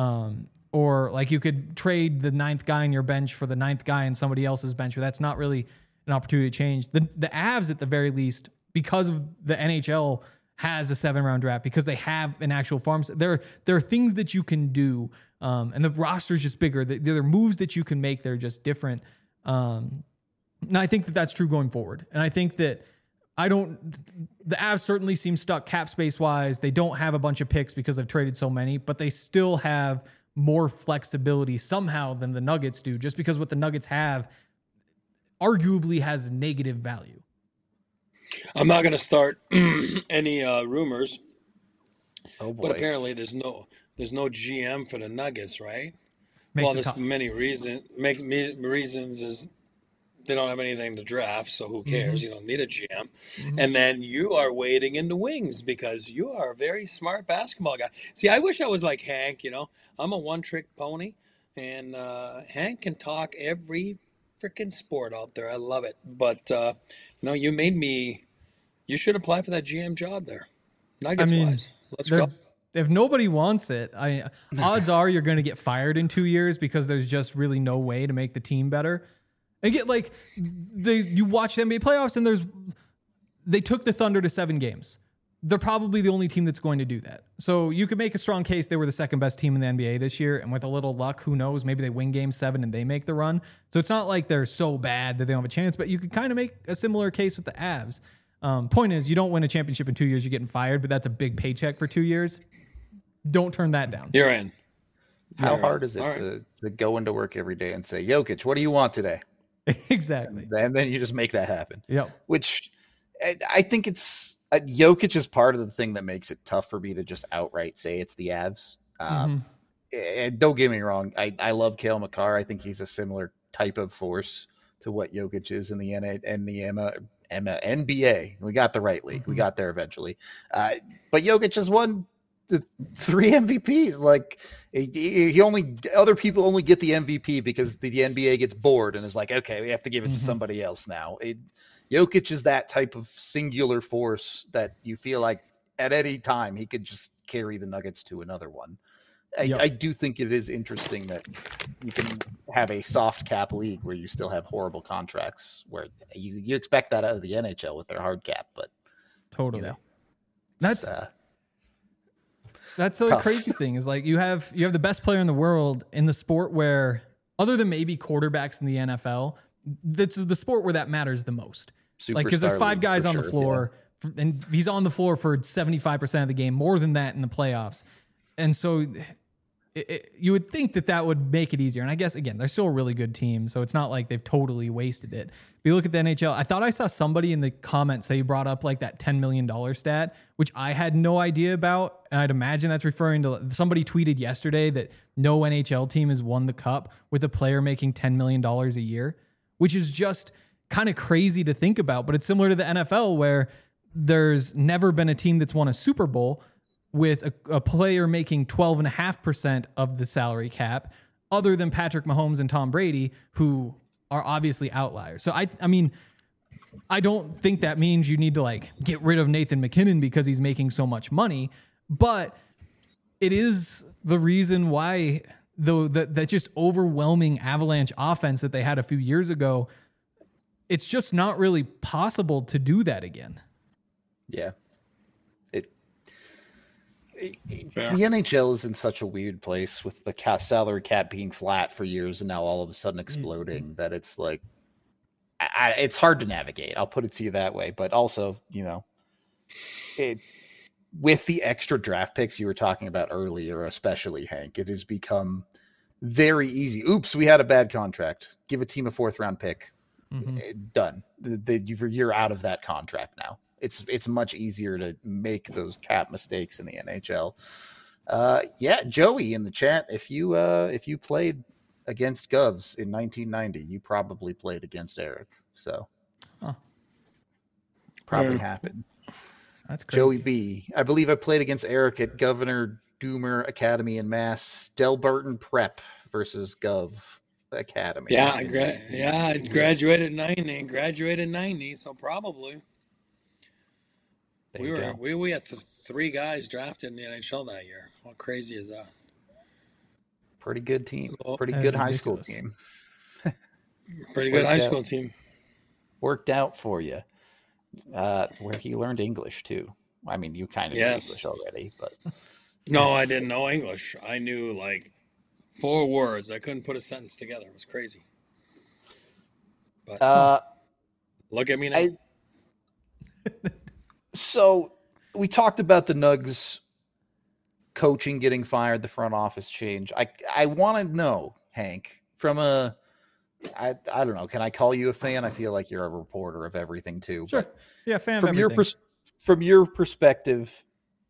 Or you could trade the 9th guy on your bench for the 9th guy on somebody else's bench, or that's not really an opportunity to change. The Avs, at the very least, because of the NHL has a 7-round draft, because they have an actual farm, there are things that you can do, and the roster's just bigger. There are moves that you can make that are just different. And I think that that's true going forward. And I think that the Avs certainly seem stuck cap space wise. They don't have a bunch of picks because they've traded so many, but they still have more flexibility somehow than the Nuggets do, just because what the Nuggets have arguably has negative value. I'm not going to start any rumors, Oh boy. but apparently there's no GM for the Nuggets, right? Makes it There's tough. many reasons. Reasons is they don't have anything to draft, so who cares? You don't need a GM. And then you are waiting in the wings because you are a very smart basketball guy. See, I wish I was like Hank. I'm a one-trick pony, and Hank can talk every freaking sport out there. I love it. But you made me. You should apply for that GM job there, Nuggets wise. Let's go. If nobody wants it, odds are you're going to get fired in 2 years because there's just really no way to make the team better. And get you watch the NBA playoffs and they took the Thunder to 7 games. They're probably the only team that's going to do that. So you could make a strong case they were the second best team in the NBA this year. And with a little luck, who knows, maybe they win game 7 and they make the run. So it's not like they're so bad that they don't have a chance, but you could kind of make a similar case with the Avs. Point is, you don't win a championship in 2 years, you're getting fired, but that's a big paycheck for 2 years. Don't turn that down. You're in. How hard is it to go into work every day and say, Jokic, what do you want today? Exactly. And then you just make that happen. Yep. Which I think it's Jokic is part of the thing that makes it tough for me to just outright say it's the Avs. And don't get me wrong. I love Cale Makar. I think he's a similar type of force to what Jokic is in the NBA. We got the right league. We got there eventually. But Jokic has won the 3 MVPs. Like other people only get the MVP because the NBA gets bored and is like, okay, we have to give it to somebody else now. Jokic is that type of singular force that you feel like at any time he could just carry the Nuggets to another one. I do think it is interesting that you can have a soft cap league where you still have horrible contracts where you expect that out of the NHL with their hard cap, but totally. That's the tough. crazy thing is you have the best player in the world in the sport where, other than maybe quarterbacks in the NFL, this is the sport where that matters the most. Because there's 5 guys on the floor, and he's on the floor for 75% of the game, more than that in the playoffs. And so you would think that would make it easier. And I guess, again, they're still a really good team, so it's not like they've totally wasted it. If you look at the NHL, I thought I saw somebody in the comments say you brought up that $10 million stat, which I had no idea about. And I'd imagine that's referring to somebody tweeted yesterday that no NHL team has won the cup with a player making $10 million a year, which is just kind of crazy to think about. But it's similar to the NFL where there's never been a team that's won a Super Bowl with a player making 12.5% of the salary cap, other than Patrick Mahomes and Tom Brady, who are obviously outliers. So I mean, I don't think that means you need to get rid of Nathan McKinnon because he's making so much money, but it is the reason why that just overwhelming Avalanche offense that they had a few years ago, it's just not really possible to do that again. Yeah. The NHL is in such a weird place with the salary cap being flat for years and now all of a sudden exploding that it's it's hard to navigate. I'll put it to you that way. But also, with the extra draft picks you were talking about earlier, especially Hank, it has become very easy. Oops, we had a bad contract. Give a team a 4th round pick. Done. You're out of that contract now. It's much easier to make those cap mistakes in the NHL. Joey in the chat, if you played against Govs in 1990, you probably played against Eric. So probably happened. That's crazy. Joey B. I believe I played against Eric at Governor Doomer Academy in Mass. Delbarton Prep versus Gov Academy. Yeah, I graduated in 90. So probably. We had 3 guys drafted in the NHL that year. How crazy is that? Pretty good team. Pretty good high school team. Pretty good high school team. Worked out for you. Where he learned English too. I mean, you kind of knew English already, but no, I didn't know English. I knew 4 words. I couldn't put a sentence together. It was crazy. But look at me now. So we talked about the Nugs coaching getting fired, the front office change. I want to know, Hank, from a I don't know. Can I call you a fan? I feel like you're a reporter of everything too. Sure. But Yeah, fan of from your everything. from your perspective,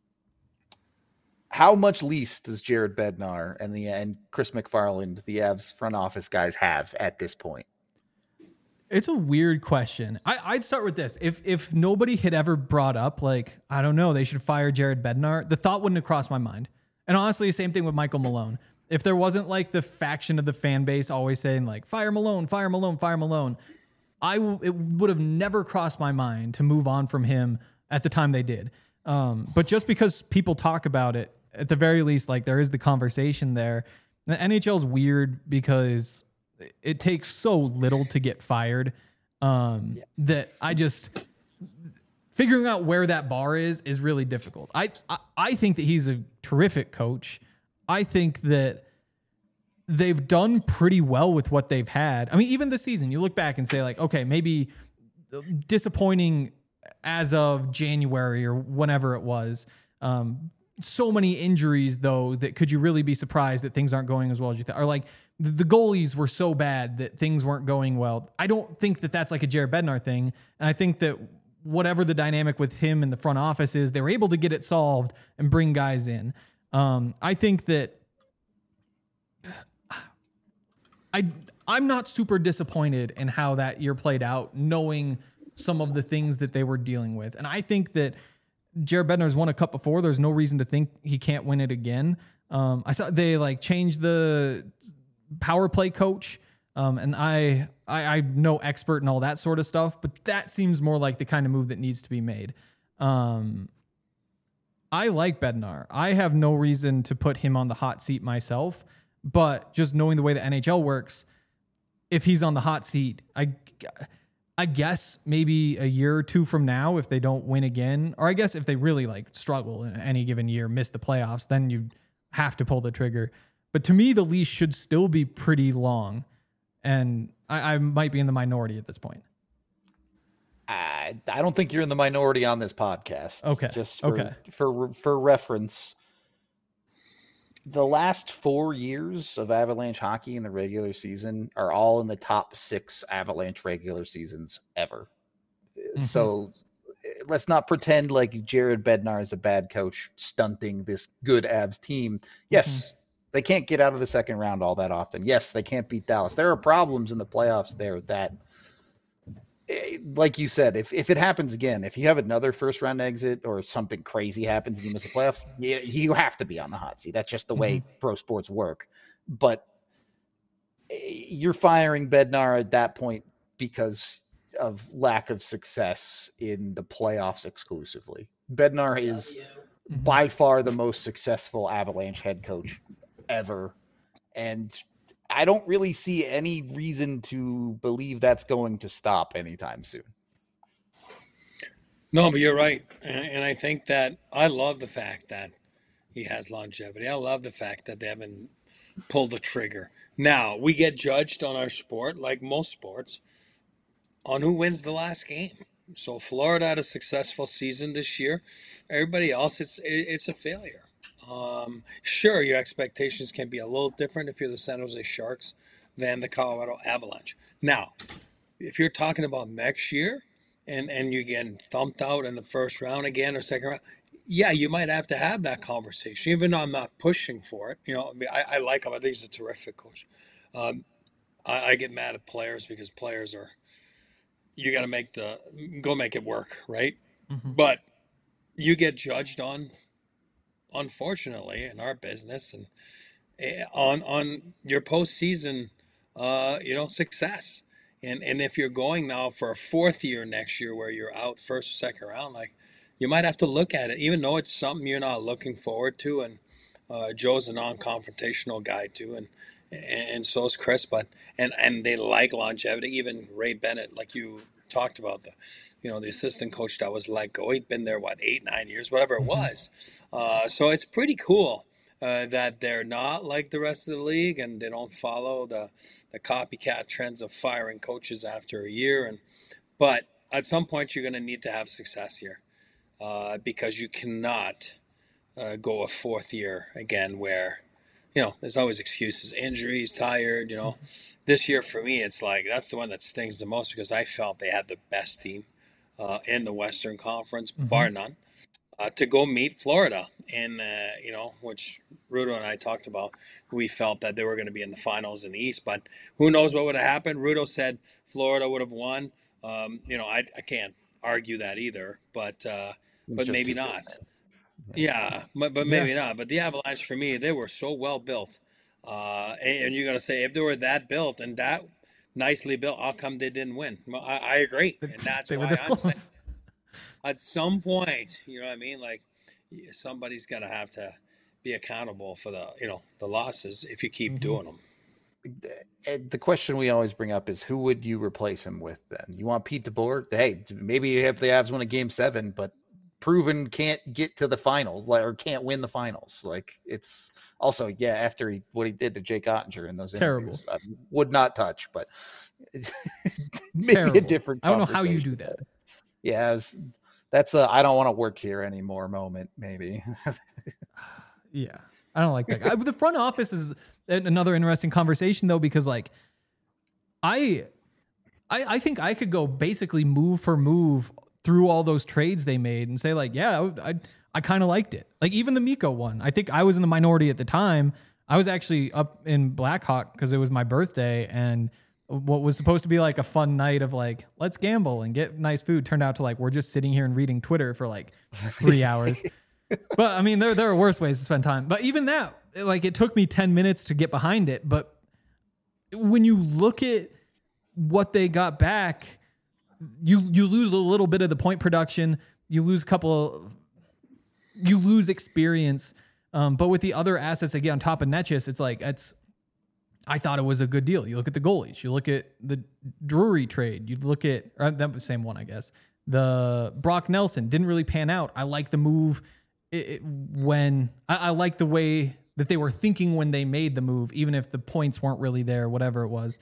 how much lease does Jared Bednar and Chris McFarland, the Avs front office guys, have at this point? It's a weird question. I'd start with this. If nobody had ever brought up, like, I don't know, they should fire Jared Bednar, the thought wouldn't have crossed my mind. And honestly, the same thing with Michael Malone. If there wasn't like the faction of the fan base always saying like, fire Malone, fire Malone, fire Malone, it would have never crossed my mind to move on from him at the time they did. But just because people talk about it, at the very least, like there is the conversation there. The NHL is weird because it takes so little to get fired that I just figuring out where that bar is really difficult. I think that he's a terrific coach. I think that they've done pretty well with what they've had. I mean, even this season, you look back and say like, okay, maybe disappointing as of January or whenever it was. So many injuries though, that could you really be surprised that things aren't going as well as you thought? Or like the goalies were so bad that things weren't going well. I don't think that that's like a Jared Bednar thing. And I think that whatever the dynamic with him in the front office is, they were able to get it solved and bring guys in. I think that I'm not super disappointed in how that year played out, knowing some of the things that they were dealing with. And I think that Jared Bednar's won a cup before. There's no reason to think he can't win it again. I saw they like changed the power play coach. And I'm no expert in all that sort of stuff, but that seems more like the kind of move that needs to be made. I like Bednar. I have no reason to put him on the hot seat myself, but just knowing the way the NHL works, if he's on the hot seat, I guess maybe a year or two from now, if they don't win again, or I guess if they really like struggle in any given year, miss the playoffs, then you have to pull the trigger. But to me, the leash should still be pretty long. And I might be in the minority at this point. I don't think you're in the minority on this podcast. Okay. Just for reference, the last 4 years of Avalanche hockey in the regular season are all in the top 6 Avalanche regular seasons ever. Mm-hmm. So let's not pretend like Jared Bednar is a bad coach stunting this good Avs team. Yes, they can't get out of the second round all that often. Yes, they can't beat Dallas. There are problems in the playoffs there that, like you said, if it happens again, if you have another first round exit or something crazy happens and you miss the playoffs, you have to be on the hot seat. That's just the way pro sports work. But you're firing Bednar at that point because of lack of success in the playoffs exclusively. Bednar is by far the most successful Avalanche head coach ever. And I don't really see any reason to believe that's going to stop anytime soon. No, but you're right. And I think that I love the fact that he has longevity. I love the fact that they haven't pulled the trigger. Now, we get judged on our sport, like most sports, on who wins the last game. So Florida had a successful season this year. Everybody else, it's a failure. Sure, your expectations can be a little different if you're the San Jose Sharks than the Colorado Avalanche. Now, if you're talking about next year and you're getting thumped out in the first round again or second round, yeah, you might have to have that conversation, even though I'm not pushing for it. You know, I mean, I like him. I think he's a terrific coach. I get mad at players because players are, you got to go make it work, right? Mm-hmm. But you get judged on, unfortunately, in our business and on your postseason, success. And if you're going now for a fourth year next year where you're out first or second round, like you might have to look at it, even though it's something you're not looking forward to. And Joe's a non-confrontational guy too, and so is Chris. But and they like longevity. Even Ray Bennett, like you talked about, the assistant coach that was let go. He'd been there 8-9 years, whatever it was. So it's pretty cool that they're not like the rest of the league and they don't follow the copycat trends of firing coaches after a year. But at some point you're going to need to have success here because you cannot go a fourth year again where, there's always excuses, injuries, tired, This year for me, it's like that's the one that stings the most because I felt they had the best team in the Western Conference, bar none, to go meet Florida. And, which Rudo and I talked about, we felt that they were going to be in the finals in the East, but who knows what would have happened. Rudo said Florida would have won. I can't argue that either, but maybe not. Yeah, but maybe not. But the Avalanche, for me, they were so well built. And you're going to say, if they were that built and that nicely built, how come they didn't win? Well, I agree. And that's They why were this I'm saying close. at some point, you know what I mean? Like, somebody's going to have to be accountable for the losses if you keep doing them. The question we always bring up is who would you replace him with then? You want Pete DeBoer? Hey, maybe if the Avs win a game 7, but proven can't get to the finals or can't win the finals. Like it's also, after what he did to Jake Ottinger in those Terrible. interviews, I would not touch, but maybe Terrible. a different I don't know how you conversation. do that. Yeah, that's a I don't want to work here anymore moment, maybe. Yeah, I don't like that guy. The front office is another interesting conversation though, because like I think I could go basically move for move through all those trades they made and say like, yeah, I kind of liked it. Like even the Mikko one, I think I was in the minority at the time. I was actually up in Blackhawk because it was my birthday, and what was supposed to be like a fun night of like, let's gamble and get nice food turned out to like, we're just sitting here and reading Twitter for like 3 hours. But I mean, there are worse ways to spend time. But even that, like it took me 10 minutes to get behind it. But when you look at what they got back, you lose a little bit of the point production. You lose you lose experience. But with the other assets, again, on top of Netchis, it's like, I thought it was a good deal. You look at the goalies, you look at the Drury trade, you look at, or that was the same one, I guess. The Brock Nelson didn't really pan out. I like the move when I like the way that they were thinking when they made the move, even if the points weren't really there, whatever it was.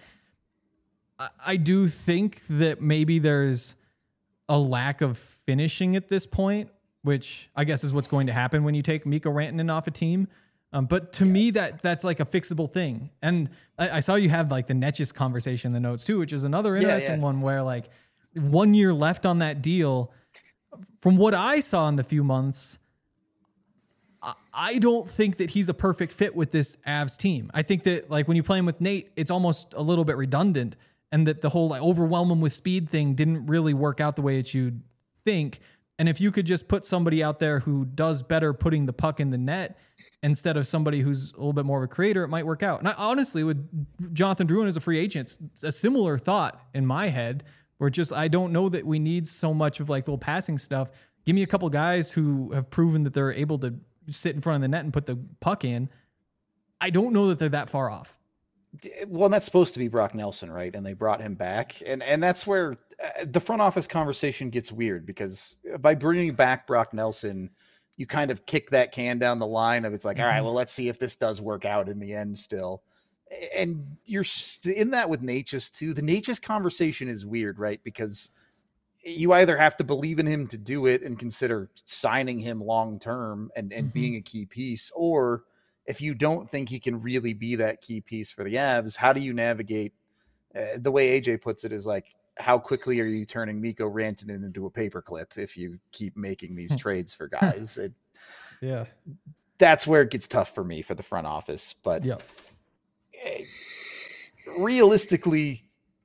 I do think that maybe there's a lack of finishing at this point, which I guess is what's going to happen when you take Mikko Rantanen off a team. But to me, that's like a fixable thing. And I saw you have like the Netchis conversation in the notes too, which is another interesting one where like 1 year left on that deal. From what I saw in the few months, I don't think that he's a perfect fit with this Avs team. I think that like when you play him with Nate, it's almost a little bit redundant, and that the whole like overwhelm him with speed thing didn't really work out the way that you'd think. And if you could just put somebody out there who does better putting the puck in the net instead of somebody who's a little bit more of a creator, it might work out. And I, honestly, with Jonathan Drouin as a free agent, it's a similar thought in my head where just, I don't know that we need so much of like little passing stuff. Give me a couple guys who have proven that they're able to sit in front of the net and put the puck in. I don't know that they're that far off. Well, that's supposed to be Brock Nelson, right? And they brought him back. And that's where the front office conversation gets weird, because by bringing back Brock Nelson, you kind of kick that can down the line of it's like, all right, well, let's see if this does work out in the end still. And you're in that with Natchez too. The Natchez conversation is weird, right? Because you either have to believe in him to do it and consider signing him long-term and being a key piece, or if you don't think he can really be that key piece for the Avs, how do you navigate? The way AJ puts it is like, how quickly are you turning Mikko Rantanen into a paperclip if you keep making these trades for guys? That's where it gets tough for me for the front office. But realistically,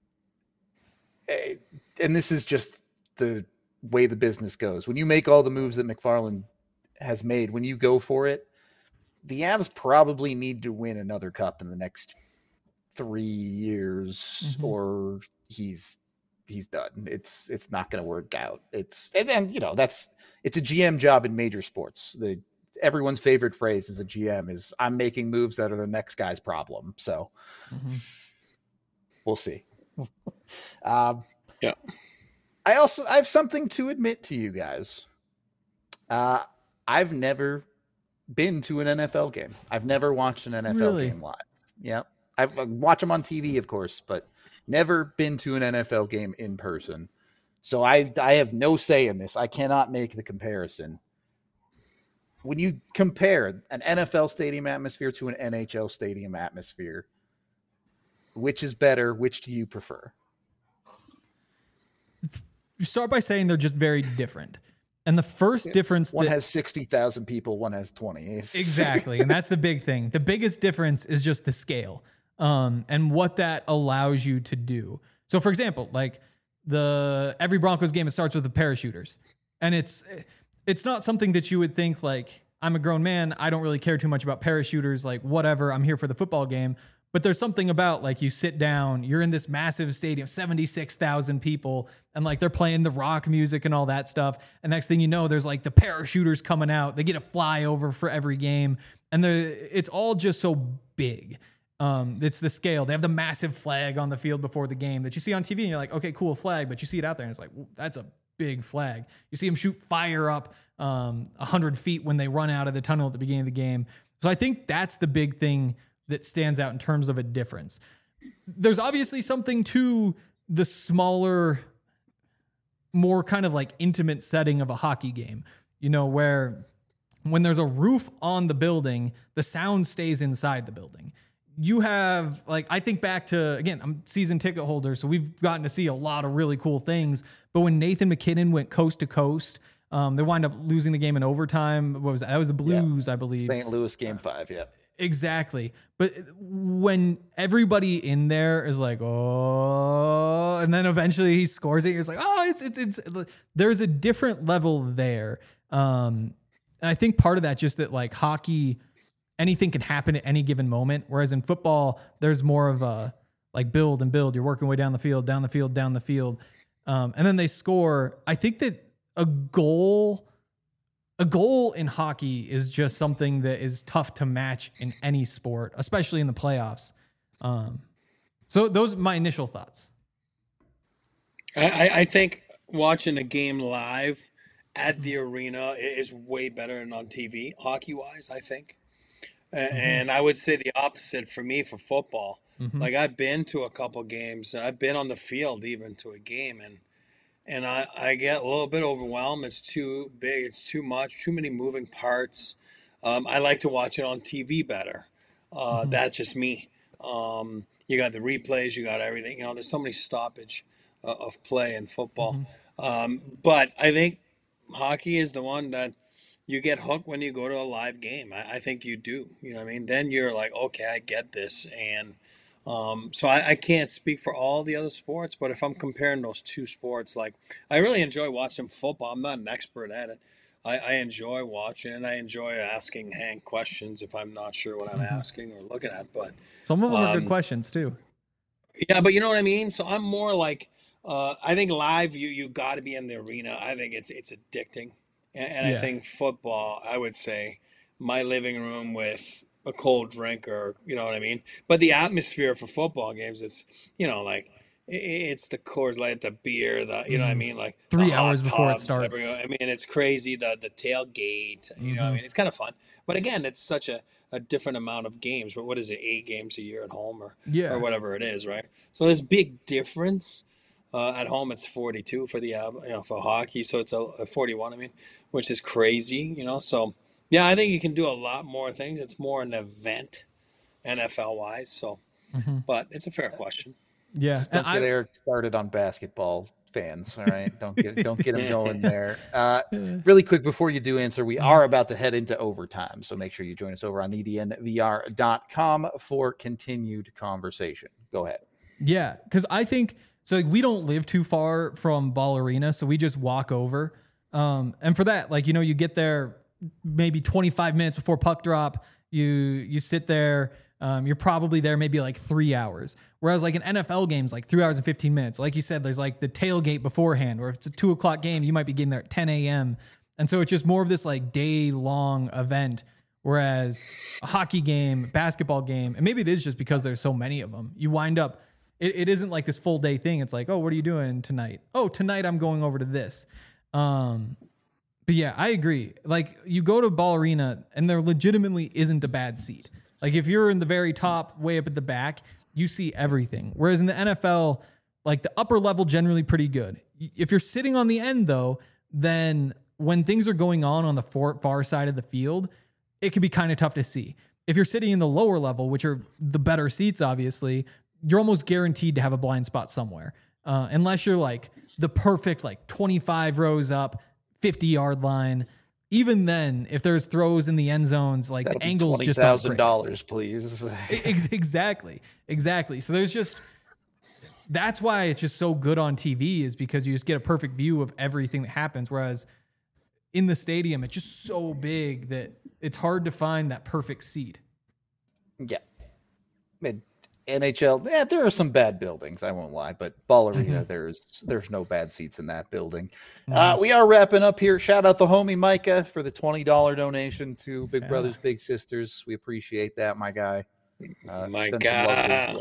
and this is just the way the business goes, when you make all the moves that McFarland has made, when you go for it, the Avs probably need to win another cup in the next 3 years, or he's done. It's not going to work out. It's a GM job in major sports. Everyone's favorite phrase as a GM is, I'm making moves that are the next guy's problem. So we'll see. I have something to admit to you guys. I've never been to an NFL game. I've never watched an NFL game live. Yeah. I watch them on TV, of course, but never been to an NFL game in person. So I have no say in this. I cannot make the comparison. when you compare an NFL stadium atmosphere to an NHL stadium atmosphere, which is better? Which do you prefer? You start by saying they're just very different. And the first difference, one has 60,000 people, one has 20. Exactly. And that's the big thing. The biggest difference is just the scale, and what that allows you to do. So for example, like every Broncos game, it starts with the parachuters, and it's not something that you would think like, I'm a grown man, I don't really care too much about parachuters, like whatever, I'm here for the football game. But there's something about like you sit down, you're in this massive stadium, 76,000 people, and like they're playing the rock music and all that stuff. And next thing you know, there's like the parachuters coming out. They get a flyover for every game. And it's all just so big. It's the scale. They have the massive flag on the field before the game that you see on TV and you're like, okay, cool flag. But you see it out there and it's like, that's a big flag. You see them shoot fire up 100 feet when they run out of the tunnel at the beginning of the game. So I think that's the big thing that stands out in terms of a difference. There's obviously something to the smaller, more kind of like intimate setting of a hockey game, where when there's a roof on the building, the sound stays inside the building. You have, like, I think back to, again, I'm season ticket holder, so we've gotten to see a lot of really cool things. But when Nathan McKinnon went coast to coast, they wind up losing the game in overtime. What was that? That was the Blues, I believe. St. Louis game 5, yeah. Exactly. But when everybody in there is like, oh, and then eventually he scores it, you're just like, oh, it's there's a different level there. And I think part of that just that like hockey, anything can happen at any given moment. Whereas in football, there's more of a like build and build. You're working way down the field. And then they score. I think that a goal in hockey is just something that is tough to match in any sport, especially in the playoffs. So those are my initial thoughts. I think watching a game live at the arena is way better than on TV, hockey-wise, I think. And I would say the opposite for me for football. Like I've been to a couple games. I've been on the field even to a game, and I get a little bit overwhelmed. It's too big. It's too much. Too many moving parts. I like to watch it on TV better. That's just me. You got the replays. You got everything. There's so many stoppage of play in football. But I think hockey is the one that you get hooked when you go to a live game. I think you do. You know what I mean? Then you're like, okay, I get this. And so I can't speak for all the other sports, but if I'm comparing those two sports, like I really enjoy watching football. I'm not an expert at it. I enjoy watching and I enjoy asking Hank questions if I'm not sure what I'm asking or looking at. But some of them are good questions too. Yeah, but you know what I mean? So I'm more like, I think live, you got to be in the arena. I think it's addicting. And I think football, I would say my living room with a cold drink or, you know what I mean? But the atmosphere for football games, it's, like it's the Coors Light, the beer, you know what I mean? Like 3 hours before it starts. I mean, it's crazy. The tailgate, you know what I mean? It's kind of fun. But again, it's such a different amount of games. What is it? 8 games a year at home or whatever it is, right? So there's big difference. At home, it's 42 for the for hockey, so it's a 41. Which is crazy, So, yeah, I think you can do a lot more things. It's more an event, NFL wise. So, but it's a fair question. Yeah, just don't get Eric started on basketball fans. All right, don't get him going there. Really quick before you do answer, we are about to head into overtime, so make sure you join us over on ednvr.com for continued conversation. Go ahead. Yeah, because I think. So like we don't live too far from Ball Arena, so we just walk over. And for that, like, you get there maybe 25 minutes before puck drop. You sit there. You're probably there maybe like 3 hours. Whereas like an NFL game's like 3 hours and 15 minutes. Like you said, there's like the tailgate beforehand, or if it's a 2:00 game, you might be getting there at 10 a.m. And so it's just more of this like day long event. Whereas a hockey game, basketball game, and maybe it is just because there's so many of them, you wind up. It isn't like this full day thing. It's like, oh, what are you doing tonight? Oh, tonight I'm going over to this. But yeah, I agree. Like you go to Ball Arena and there legitimately isn't a bad seat. Like if you're in the very top, way up at the back, you see everything. Whereas in the NFL, like the upper level generally pretty good. If you're sitting on the end though, then when things are going on the far side of the field, it can be kind of tough to see. If you're sitting in the lower level, which are the better seats, obviously, you're almost guaranteed to have a blind spot somewhere. Unless you're like the perfect, like 25 rows up, 50-yard line. Even then, if there's throws in the end zones, like the angles just aren't great. $20,000, please. Exactly. So that's why it's just so good on TV, is because you just get a perfect view of everything that happens. Whereas in the stadium, it's just so big that it's hard to find that perfect seat. Yeah. NHL, there are some bad buildings, I won't lie, but Ball Arena, there's no bad seats in that building. We are wrapping up here. Shout out the homie Micah for the $20 donation to Big Brothers Big Sisters. We appreciate that, my guy. My God.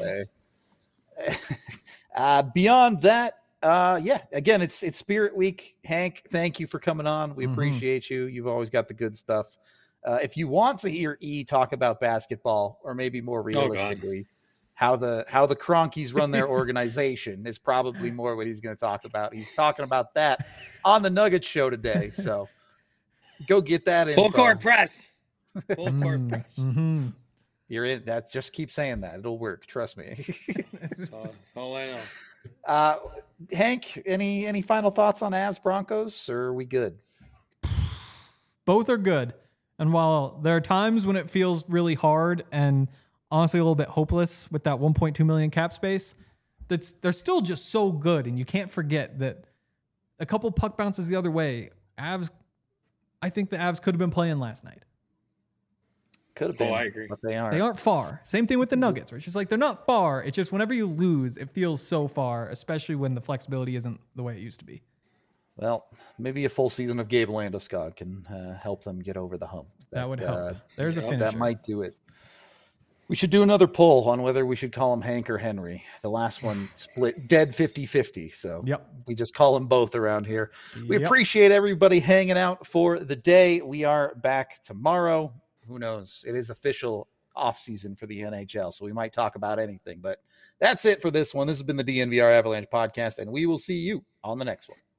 Beyond that, again, it's Spirit Week. Hank, thank you for coming on. We appreciate you. You've always got the good stuff. If you want to hear E talk about basketball, or maybe more realistically, how the Cronkies run their organization is probably more what he's going to talk about. He's talking about that on the Nuggets show today. So go get that in. Full court press. Full court press. You're in that. Just keep saying that. It'll work. Trust me. That's all I know. Hank, any final thoughts on Avs Broncos, or are we good? Both are good. And while there are times when it feels really hard and honestly a little bit hopeless with that 1.2 million cap space, they're still just so good. And you can't forget that a couple puck bounces the other way, I think the Avs could have been playing last night. Could have been. I agree. But they aren't. They aren't far. Same thing with the Nuggets, where it's just like they're not far. It's just whenever you lose, it feels so far, especially when the flexibility isn't the way it used to be. Well, maybe a full season of Gabe Landeskog can help them get over the hump. That would help. There's a finisher. That might do it. We should do another poll on whether we should call him Hank or Henry. The last one split dead 50-50. So we just call them both around here. We appreciate everybody hanging out for the day. We are back tomorrow. Who knows? It is official off season for the NHL, so we might talk about anything. But that's it for this one. This has been the DNVR Avalanche podcast, and we will see you on the next one.